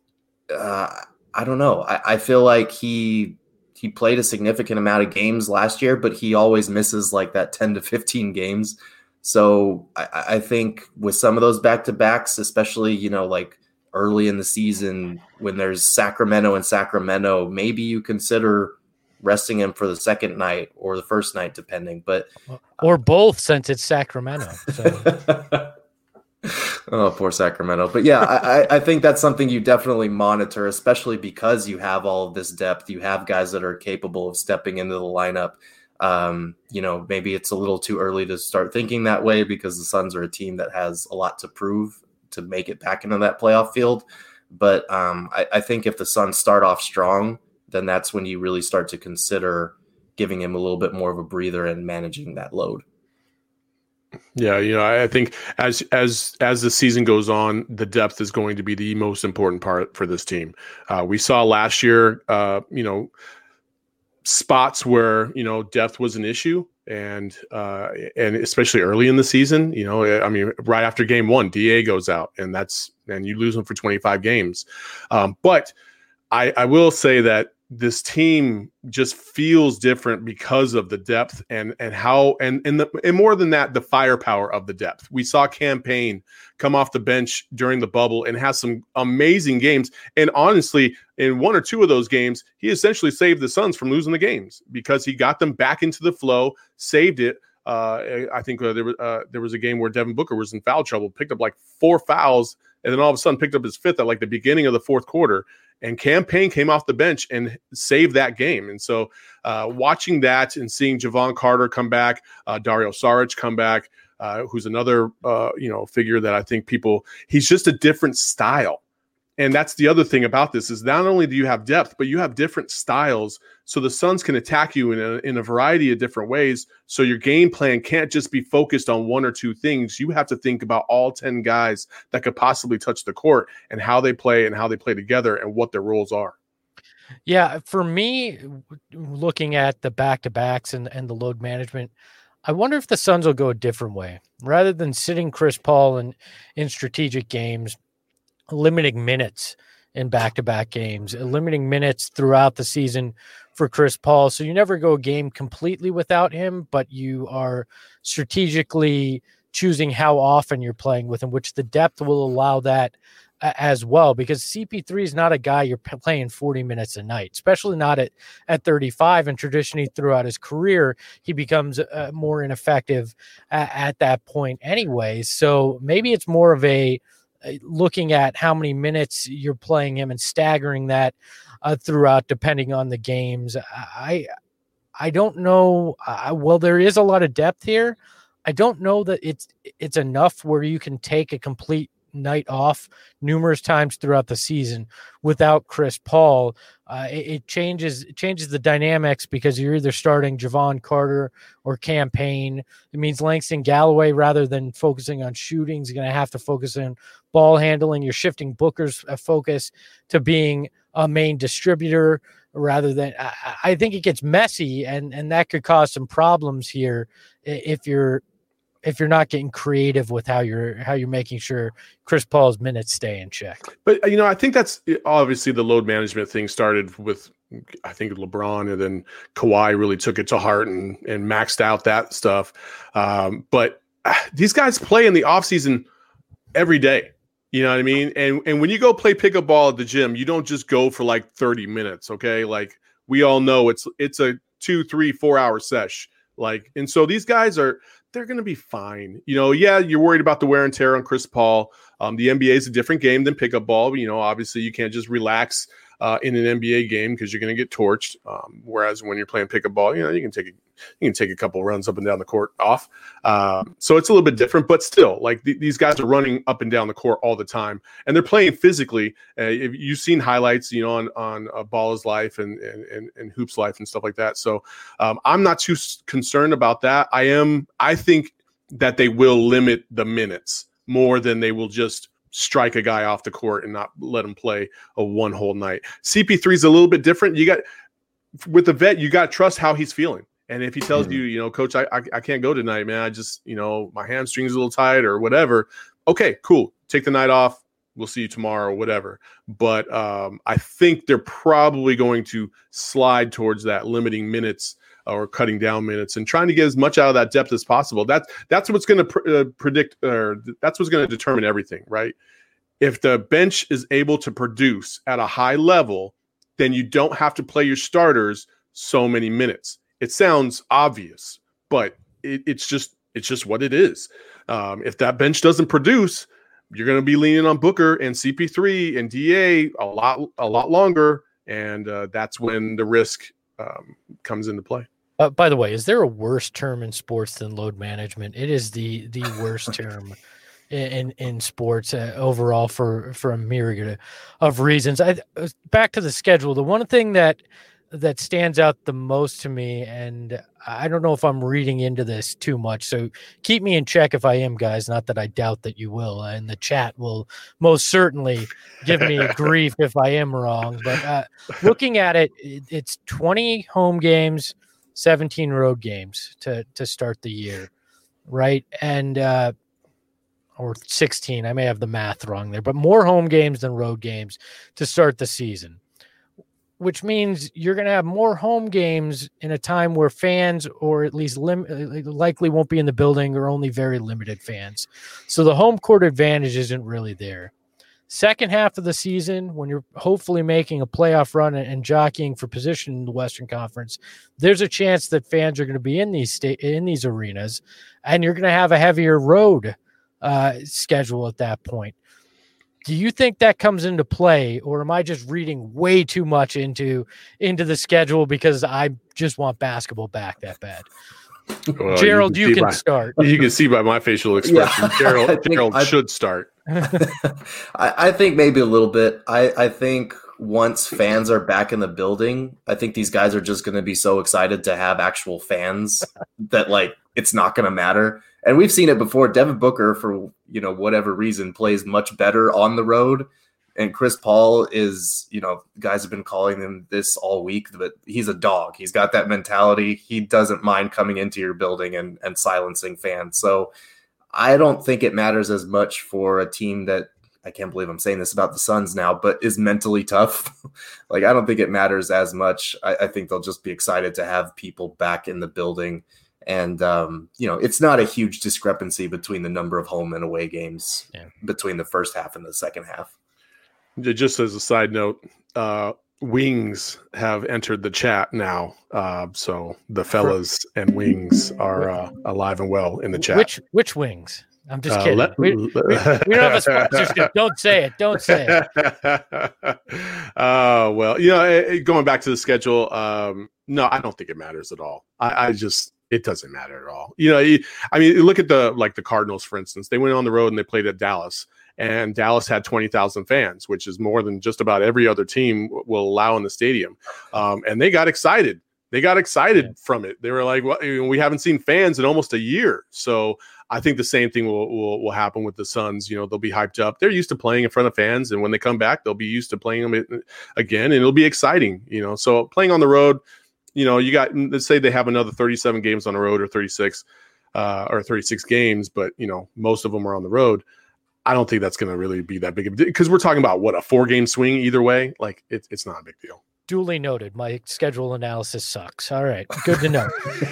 I don't know. I feel like he played a significant amount of games last year, but he always misses like that 10 to 15 games. So I think with some of those back-to-backs, especially, you know, like early in the season when there's Sacramento, maybe you consider resting him for the second night or the first night, depending. But or both, since it's Sacramento. So. Oh, poor Sacramento. But yeah, I think that's something you definitely monitor, especially because you have all of this depth. You have guys that are capable of stepping into the lineup. You know, maybe it's a little too early to start thinking that way because the Suns are a team that has a lot to prove to make it back into that playoff field. But I think if the Suns start off strong, then that's when you really start to consider giving him a little bit more of a breather and managing that load. Yeah, you know, I think as the season goes on, the depth is going to be the most important part for this team. We saw last year, you know, spots where, you know, depth was an issue, and especially early in the season. You know, I mean, right after game one, DA goes out, and you lose him for 25 games. But I will say that this team just feels different because of the depth and more than that, the firepower of the depth. We saw Cam Payne come off the bench during the bubble and has some amazing games. And honestly, in one or two of those games, he essentially saved the Suns from losing the games because he got them back into the flow, saved it. I think there was a game where Devin Booker was in foul trouble, picked up like 4 fouls, and then all of a sudden picked up his 5th at like the beginning of the fourth quarter. And Cam Payne came off the bench and saved that game. And so watching that and seeing Javon Carter come back, Dario Saric come back, who's another figure that I think he's just a different style. And that's the other thing about this is not only do you have depth, but you have different styles. So the Suns can attack you in a variety of different ways. So your game plan can't just be focused on one or two things. You have to think about all 10 guys that could possibly touch the court and how they play together and what their roles are. Yeah, for me, looking at the back-to-backs and the load management, I wonder if the Suns will go a different way. Rather than sitting Chris Paul in strategic games, limiting minutes in back-to-back games, limiting minutes throughout the season for Chris Paul. So you never go a game completely without him, but you are strategically choosing how often you're playing with him, which the depth will allow that as well, because CP3 is not a guy you're playing 40 minutes a night, especially not at 35. And traditionally throughout his career, he becomes more ineffective at that point anyway. So maybe it's more of a looking at how many minutes you're playing him and staggering that throughout, depending on the games. I don't know. Well, there is a lot of depth here. I don't know that it's enough where you can take a complete night off numerous times throughout the season without Chris Paul. It changes the dynamics because you're either starting Javon Carter or Cam Payne. It means Langston Galloway, rather than focusing on shooting, is going to have to focus on ball handling. You're shifting Booker's focus to being a main distributor rather than. I think it gets messy, and that could cause some problems here if you're if you're not getting creative with how you're making sure Chris Paul's minutes stay in check. But I think that's obviously the load management thing started with, I think, LeBron, and then Kawhi really took it to heart and maxed out that stuff. But these guys play in the offseason every day. You know what I mean? And when you go play pickup ball at the gym, you don't just go for like 30 minutes. Okay. Like we all know it's a 2, 3, 4 hour sesh. Like, and so these guys they're going to be fine. Yeah, you're worried about the wear and tear on Chris Paul. The NBA is a different game than pickup ball. Obviously you can't just relax in an NBA game because you're going to get torched. Whereas when you're playing pickup ball, you can take a couple runs up and down the court off. So it's a little bit different, but still, like these guys are running up and down the court all the time, and they're playing physically. If you've seen highlights, on Ball is Life and Hoops Life and stuff like that. So I'm not too concerned about that. I think that they will limit the minutes more than they will just strike a guy off the court and not let him play a one whole night. CP3 is a little bit different. With the vet, you got to trust how he's feeling. And if he tells you, Coach, I can't go tonight, man. I just, my hamstring's a little tight or whatever. Okay, cool. Take the night off. We'll see you tomorrow or whatever. But I think they're probably going to slide towards that limiting minutes or cutting down minutes and trying to get as much out of that depth as possible. That's what's going to predict, or that's what's going to determine everything, right? If the bench is able to produce at a high level, then you don't have to play your starters so many minutes. It sounds obvious, but it's just what it is. If that bench doesn't produce, you're going to be leaning on Booker and CP3 and DA a lot longer, and that's when the risk comes into play. By the way, is there a worse term in sports than load management? It is the worst term in sports overall for a myriad of reasons. Back to the schedule, the one thing that stands out the most to me, and I don't know if I'm reading into this too much, so keep me in check if I am, guys. Not that I doubt that you will, and the chat will most certainly give me grief if I am wrong. But looking at it, it's 20 home games, 17 road games to start the year, right? And or 16, I may have the math wrong there, but more home games than road games to start the season, which means you're going to have more home games in a time where fans, or at least likely won't be in the building, or only very limited fans. So the home court advantage isn't really there. Second half of the season, when you're hopefully making a playoff run and jockeying for position in the Western Conference, there's a chance that fans are going to be in these arenas, and you're going to have a heavier road schedule at that point. Do you think that comes into play, or am I just reading way too much into the schedule because I just want basketball back that bad? Well, Gerald, you can start. You can see by my facial expression, yeah. Gerald should start. I think maybe a little bit. I think once fans are back in the building, I think these guys are just going to be so excited to have actual fans that like it's not going to matter. And we've seen it before. Devin Booker, for whatever reason, plays much better on the road. And Chris Paul is, guys have been calling him this all week, but he's a dog. He's got that mentality. He doesn't mind coming into your building and silencing fans. So I don't think it matters as much for a team that, I can't believe I'm saying this about the Suns now, but is mentally tough. Like, I don't think it matters as much. I think they'll just be excited to have people back in the building. And, it's not a huge discrepancy between the number of home and away games between the first half and the second half. Just as a side note, Wings have entered the chat now. So the fellas and Wings are alive and well in the chat. Which Wings? I'm just kidding. We don't have a sponsorship. Don't say it. Don't say it. Well, going back to the schedule, no, I don't think it matters at all. It doesn't matter at all. Look at the Cardinals, for instance. They went on the road and they played at Dallas, and Dallas had 20,000 fans, which is more than just about every other team will allow in the stadium. And they got excited. From it. They were like, well, we haven't seen fans in almost a year. So I think the same thing will happen with the Suns. They'll be hyped up. They're used to playing in front of fans, and when they come back, they'll be used to playing them again, and it'll be exciting. So playing on the road, you got, let's say they have another 37 games on the road or 36. or 36 games, but most of them are on the road. I don't think that's going to really be that big of a deal, because we're talking about a 4-game swing either way. Like it's not a big deal. Duly noted. My schedule analysis sucks. All right, good to know.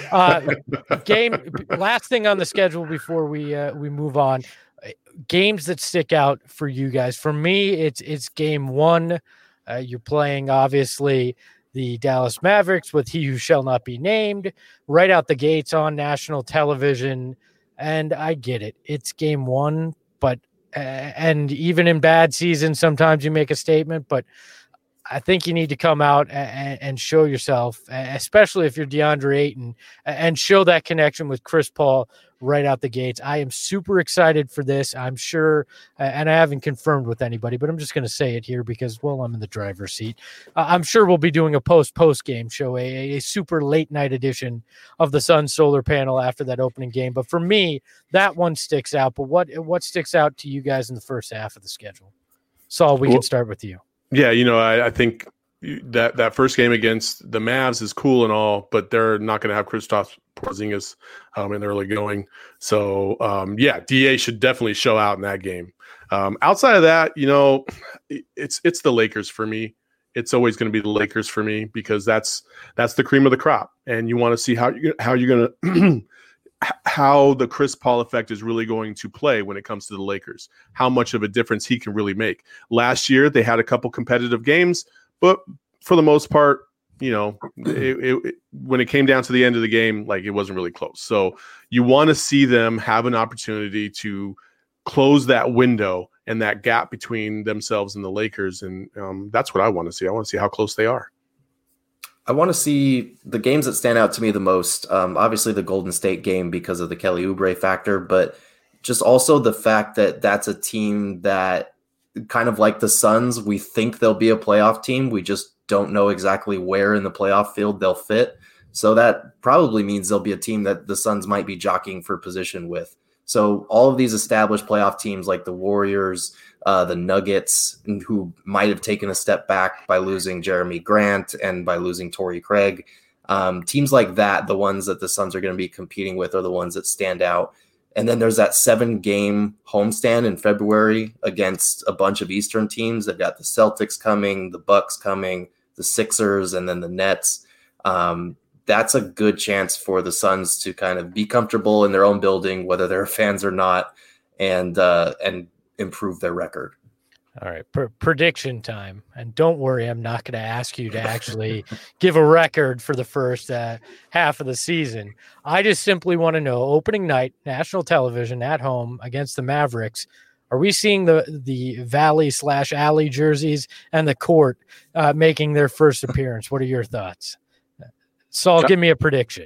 Last thing on the schedule before we move on. Games that stick out for you guys. For me, it's game 1. You're playing obviously the Dallas Mavericks with He Who Shall Not Be Named right out the gates on national television, and I get it. It's game 1, but and even in bad seasons, sometimes you make a statement, but I think you need to come out and show yourself, especially if you're DeAndre Ayton, and show that connection with Chris Paul right out the gates. I am super excited for this. I'm sure, and I haven't confirmed with anybody, but I'm just going to say it here because, well, I'm in the driver's seat. I'm sure we'll be doing a post-game show, a super late night edition of the Sun Solar Panel after that opening game. But for me, that one sticks out. But what sticks out to you guys in the first half of the schedule? Saul, we can start with you. Yeah, I think that first game against the Mavs is cool and all, but they're not going to have Kristaps Porzingis in early going. So, DA should definitely show out in that game. Outside of that, it's the Lakers for me. It's always going to be the Lakers for me because that's the cream of the crop, and you want to see how you're going to how the Chris Paul effect is really going to play when it comes to the Lakers, how much of a difference he can really make. Last year, they had a couple competitive games, but for the most part, when it came down to the end of the game, like it wasn't really close. So you want to see them have an opportunity to close that window and that gap between themselves and the Lakers. And that's what I want to see. I want to see how close they are. I want to see the games that stand out to me the most. Obviously, the Golden State game because of the Kelly Oubre factor, but just also the fact that that's a team that kind of like the Suns, we think they'll be a playoff team. We just don't know exactly where in the playoff field they'll fit. So that probably means they'll be a team that the Suns might be jockeying for position with. So all of these established playoff teams like the Warriors, the Nuggets, who might have taken a step back by losing Jeremy Grant and by losing Torrey Craig, teams like that, the ones that the Suns are going to be competing with are the ones that stand out. And then there's that 7-game homestand in February against a bunch of Eastern teams. They've got the Celtics coming, the Bucks coming, the Sixers, and then the Nets. That's a good chance for the Suns to kind of be comfortable in their own building, whether they're fans or not, and improve their record. All right, prediction time. And don't worry, I'm not going to ask you to actually give a record for the first half of the season. I just simply want to know, opening night, national television at home against the Mavericks, are we seeing the Valley/Alley jerseys and the court making their first appearance? What are your thoughts? Saul, give me a prediction.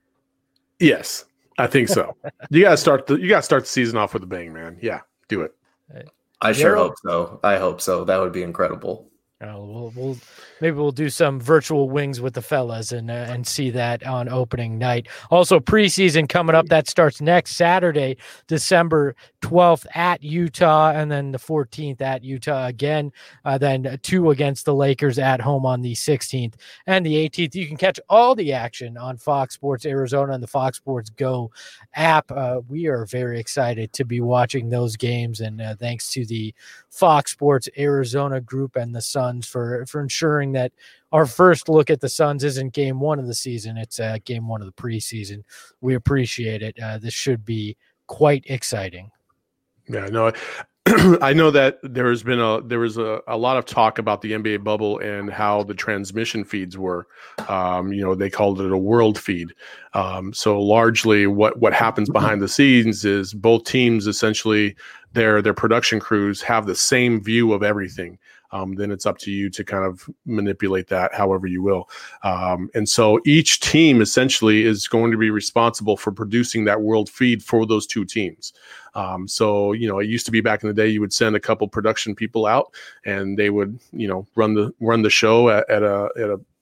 Yes, I think so. You got to start the season off with a bang, man. Yeah, do it. I sure hope so. I hope so. That would be incredible. Maybe we'll do some virtual wings with the fellas and see that on opening night. Also, preseason coming up. That starts next Saturday, December 12th at Utah, and then the 14th at Utah again. Then 2 against the Lakers at home on the 16th and the 18th. You can catch all the action on Fox Sports Arizona and the Fox Sports Go app. We are very excited to be watching those games, and thanks to the Fox Sports Arizona group and the Suns for ensuring that our first look at the Suns isn't game 1 of the season. It's game 1 of the preseason. We appreciate it. This should be quite exciting. Yeah, no, I know that there was a lot of talk about the NBA bubble and how the transmission feeds were. They called it a world feed. So largely what happens behind the scenes is both teams essentially their production crews have the same view of everything. Then it's up to you to kind of manipulate that however you will. And so each team essentially is going to be responsible for producing that world feed for those two teams. So it used to be back in the day, you would send a couple production people out and they would, run the show at a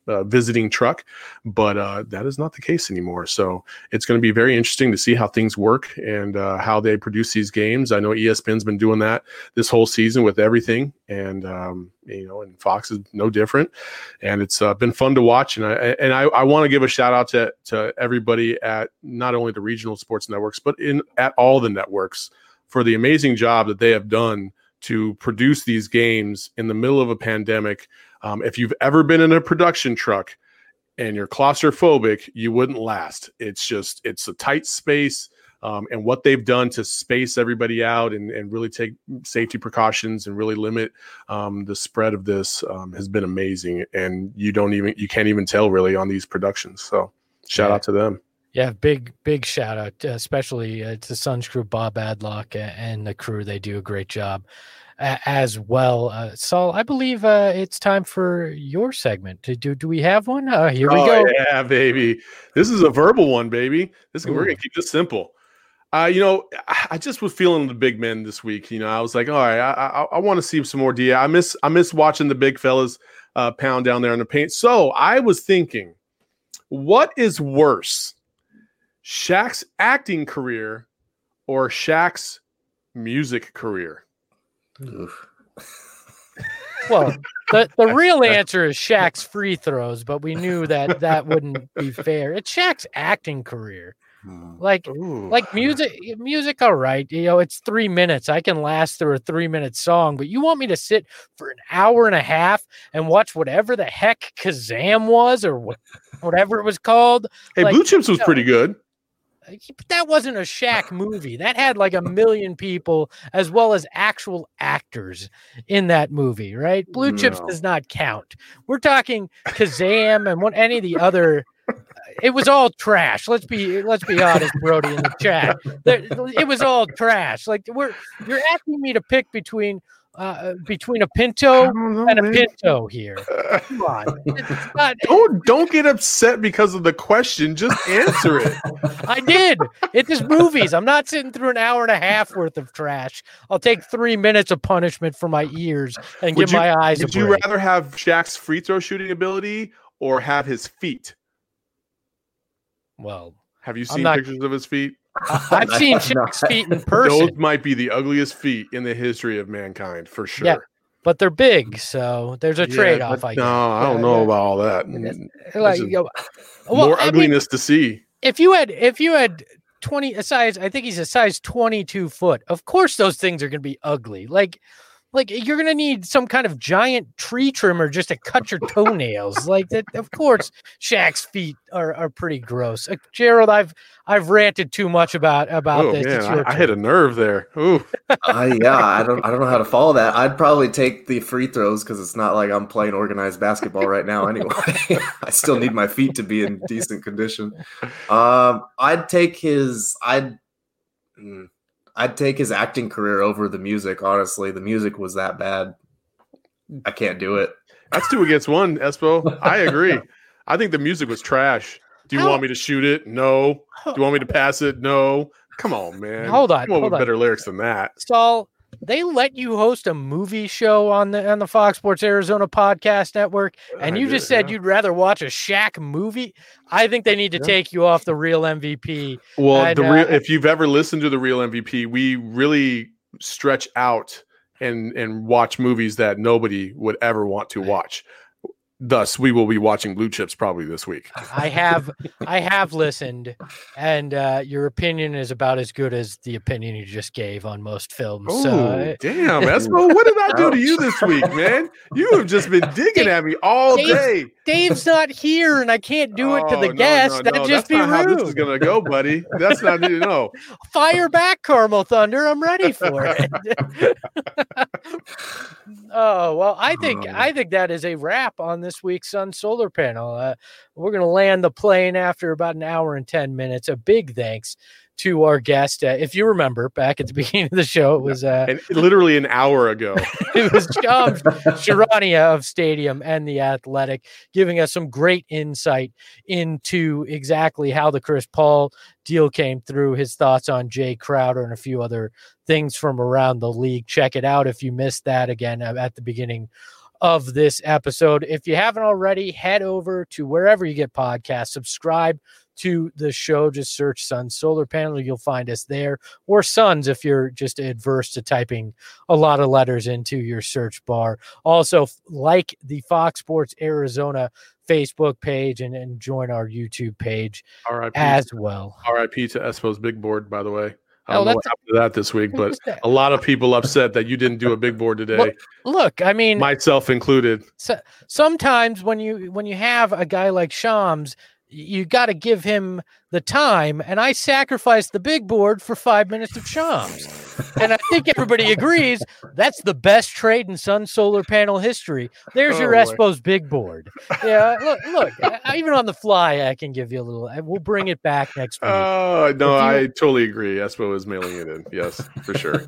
visiting truck, but that is not the case anymore. So it's going to be very interesting to see how things work and how they produce these games. I know ESPN's been doing that this whole season with everything, and and Fox is no different. And it's been fun to watch. And I want to give a shout out to everybody at not only the regional sports networks, but at all the networks for the amazing job that they have done to produce these games in the middle of a pandemic. If you've ever been in a production truck and you're claustrophobic, you wouldn't last. It's a tight space, and what they've done to space everybody out and really take safety precautions and really limit the spread of this has been amazing. And you can't even tell really on these productions. So shout out to them. Yeah, big shout out, especially to Suns crew, Bob Adlock and the crew. They do a great job as well. Saul, I believe it's time for your segment. Do we have one? Here we go. Yeah, baby. This is a verbal one, baby. We're going to keep this simple. I just was feeling the big men this week. I was like, all right, I want to see some more DA. I miss watching the big fellas pound down there in the paint. So I was thinking, what is worse, Shaq's acting career or Shaq's music career? Well, the real answer is Shaq's free throws, but we knew that wouldn't be fair. It's Shaq's acting career. Like music, all right. It's 3 minutes. I can last through a 3-minute song, but you want me to sit for an hour and a half and watch whatever the heck Kazam was or whatever it was called? Hey, Blue Chips was pretty good. But that wasn't a Shaq movie. That had like 1 million people as well as actual actors in that movie, right? Blue Chips does not count. We're talking Kazam and any of the other. It was all trash. Let's be honest, Brody, in the chat. It was all trash. Like you're asking me to pick between a Pinto and a Pinto here. Come on. Don't get upset because of the question. Just answer it. I did. It's just movies. I'm not sitting through an hour and a half worth of trash. I'll take 3 minutes of punishment for my ears and give my eyes a break. Would you rather have Shaq's free throw shooting ability or have his feet? Well, have you seen pictures of his feet? I've seen Shaq's feet in person. Those might be the ugliest feet in the history of mankind, for sure. Yeah, but they're big, so there's a trade-off. I don't know about all that. More ugliness to see. If you had 20 a size, I think he's a size 22 foot. Of course, those things are going to be ugly. Like you're going to need some kind of giant tree trimmer just to cut your toenails. Like that. Of course, Shaq's feet are pretty gross. Gerald, I've ranted too much about this. Man, I hit a nerve there. Ooh. Yeah, I don't know how to follow that. I'd probably take the free throws because it's not like I'm playing organized basketball right now anyway. I still need my feet to be in decent condition. I'd take his acting career over the music. Honestly, the music was that bad. I can't do it. That's 2 against 1, Espo. I agree. I think the music was trash. Do you want me to shoot it? No. Do you want me to pass it? No. Come on, man. Hold on. Come on with better lyrics than that. Saul, they let you host a movie show on the Fox Sports Arizona podcast network, and you just said you'd rather watch a Shaq movie. I think they need to take you off the Real MVP. Well, if you've ever listened to the Real MVP, we really stretch out and watch movies that nobody would ever want to watch. Thus, we will be watching Blue Chips probably this week. I have listened, and your opinion is about as good as the opinion you just gave on most films. Oh, damn, Espo, what did I do to you this week, man? You have just been digging at me all day. Dave's not here, and I can't do it to the guest. That'd just be rude. That's not how this is gonna go, buddy. That's not Fire back, Carmel Thunder. I'm ready for it. Oh well, I think that is a wrap on this week's Sun Solar Panel. We're going to land the plane after about an hour and 10 minutes. A big thanks to our guest. If you remember back at the beginning of the show, it was literally an hour ago. It was Sharania of Stadium and The Athletic giving us some great insight into exactly how the Chris Paul deal came through, his thoughts on Jay Crowder and a few other things from around the league. Check it out if you missed that again at the beginning of this episode. If you haven't already, head over to wherever you get podcasts, subscribe to the show. Just search Suns Solar Panel. You'll find us there, or Suns if you're just adverse to typing a lot of letters into your search bar. Also, like the Fox Sports Arizona Facebook page and join our YouTube page as well. RIP to Espo's big board, by the way. I don't know what happened to that this week, but a lot of people upset that you didn't do a big board today. Well, look, I mean, myself included. So, sometimes when you have a guy like Shams, you got to give him the time, and I sacrificed the big board for 5 minutes of Shams. And I think everybody agrees that's the best trade in Sun Solar Panel history. There's your Espo's big board. Yeah, look, even on the fly, I can give you a little. We'll bring it back next week. Oh, no, I totally agree. Espo is mailing it in. Yes, for sure.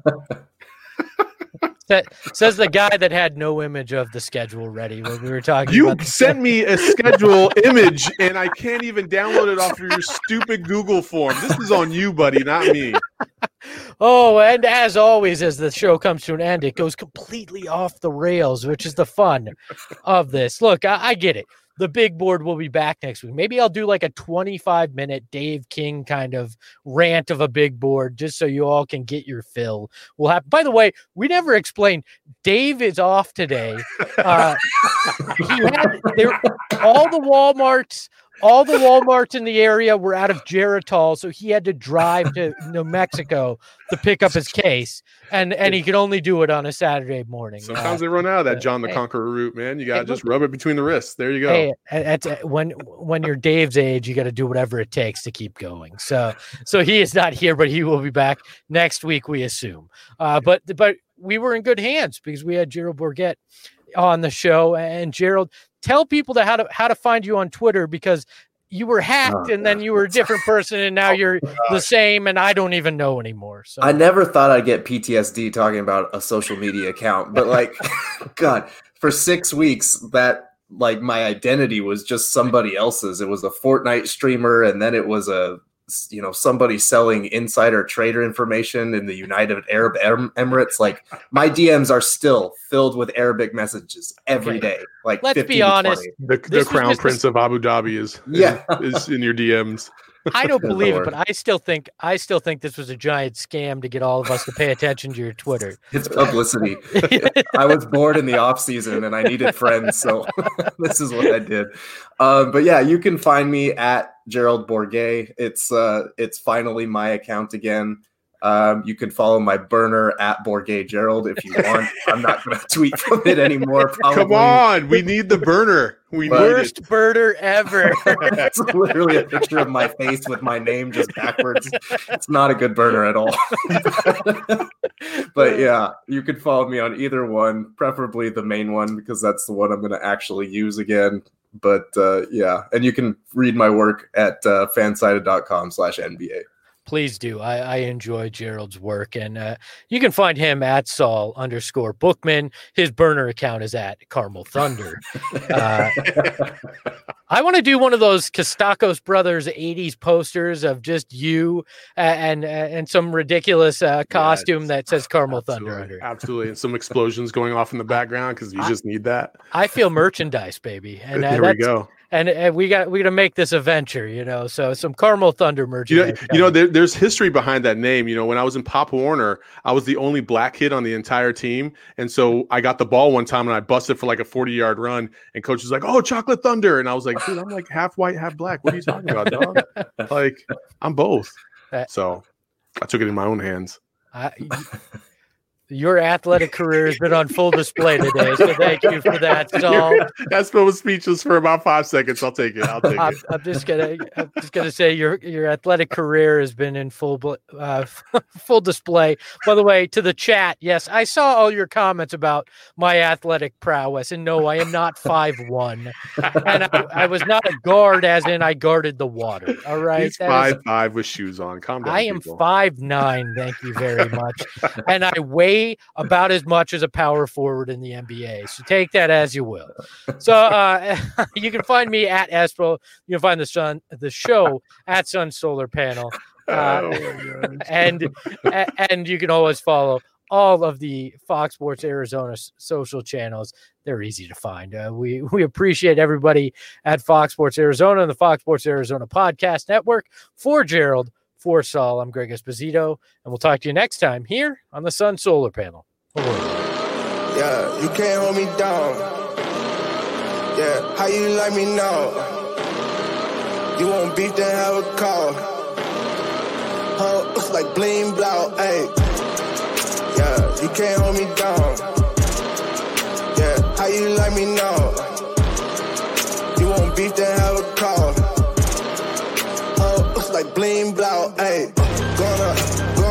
That says the guy that had no image of the schedule ready when we were talking. You about sent me a schedule image, and I can't even download it off of your stupid Google form. This is on you, buddy, not me. Oh, and as always, as the show comes to an end, it goes completely off the rails, which is the fun of this. Look, I get it. The big board will be back next week. Maybe I'll do like a 25-minute Dave King kind of rant of a big board just so you all can get your fill. We'll have. By the way, we never explained. Dave is off today. All the Walmarts in the area were out of Geritol, so he had to drive to New Mexico to pick up his case, and he could only do it on a Saturday morning. Sometimes they run out of that John the Conqueror route, man. You got to just rub it between the wrists. There you go. Hey, when you're Dave's age, you got to do whatever it takes to keep going. So he is not here, but he will be back next week, we assume. But we were in good hands because we had Gerald Bourguet on the show. And Gerald, tell people how to find you on Twitter, because you were hacked and then you were a different person and now you're the same, and I don't even know anymore. So I never thought I'd get PTSD talking about a social media account, but like, God, for 6 weeks that like my identity was just somebody else's. It was a Fortnite streamer, and then it was somebody selling insider trader information in the United Arab Emirates. Like, my DMs are still filled with Arabic messages every day. Like, let's be honest, the crown prince of Abu Dhabi is in your DMs. I don't believe it, but I still think this was a giant scam to get all of us to pay attention to your Twitter. It's publicity. I was bored in the off season and I needed friends, so this is what I did. But yeah, you can find me at Gerald Bourguet. It's finally my account again. You can follow my burner at Bourguet Gerald if you want. I'm not going to tweet from it anymore. Probably. Come on, we need the burner. Worst burner ever. It's literally a picture of my face with my name just backwards. It's not a good burner at all. But yeah, you can follow me on either one, preferably the main one, because that's the one I'm going to actually use again. But yeah, and you can read my work at fansided.com/NBA. Please do. I enjoy Gerald's work, and you can find him at Saul_Bookman. His burner account is at Carmel Thunder. I want to do one of those Kostakos Brothers 80s posters of just you and some ridiculous costume that says Carmel Thunder under it. Absolutely. And some explosions going off in the background because you just need that. I feel merchandise, baby. And there we go. And we got to make this a venture, so some Carmel Thunder merchandise. There's history behind that name. When I was in Pop Warner, I was the only black kid on the entire team, and so I got the ball one time and I busted for like a 40-yard run, and coach was like, "Oh, Chocolate Thunder," and I was like, "Dude, I'm like half white, half black. What are you talking about, dog? Like, I'm both." So I took it in my own hands. Your athletic career has been on full display today, so thank you for that, Saul. That spell was speechless for about 5 seconds. I'll take it. I'm just gonna say your athletic career has been in full display. By the way, to the chat, yes, I saw all your comments about my athletic prowess, and no, I am not 5'1", and I was not a guard, as in I guarded the water. All right, he's 5'5" with shoes on. Calm down. I am 5'9". Thank you very much, and I weigh about as much as a power forward in the NBA. So take that as you will. So you can find me at Espo. You can find the show at Sun Solar Panel. And you can always follow all of the Fox Sports Arizona social channels. They're easy to find. We appreciate everybody at Fox Sports Arizona and the Fox Sports Arizona Podcast Network. For Gerald, for Saul, I'm Greg Esposito, and we'll talk to you next time here on the Sun Solar Panel. Yeah, you can't hold me down. Yeah, how you like me now? You won't beat, then have a call. Looks like bling blow, ayy. Yeah, you can't hold me down. Yeah, how you like me now? You won't beat, then have a call. Looks like bling blow, ayy. Gonna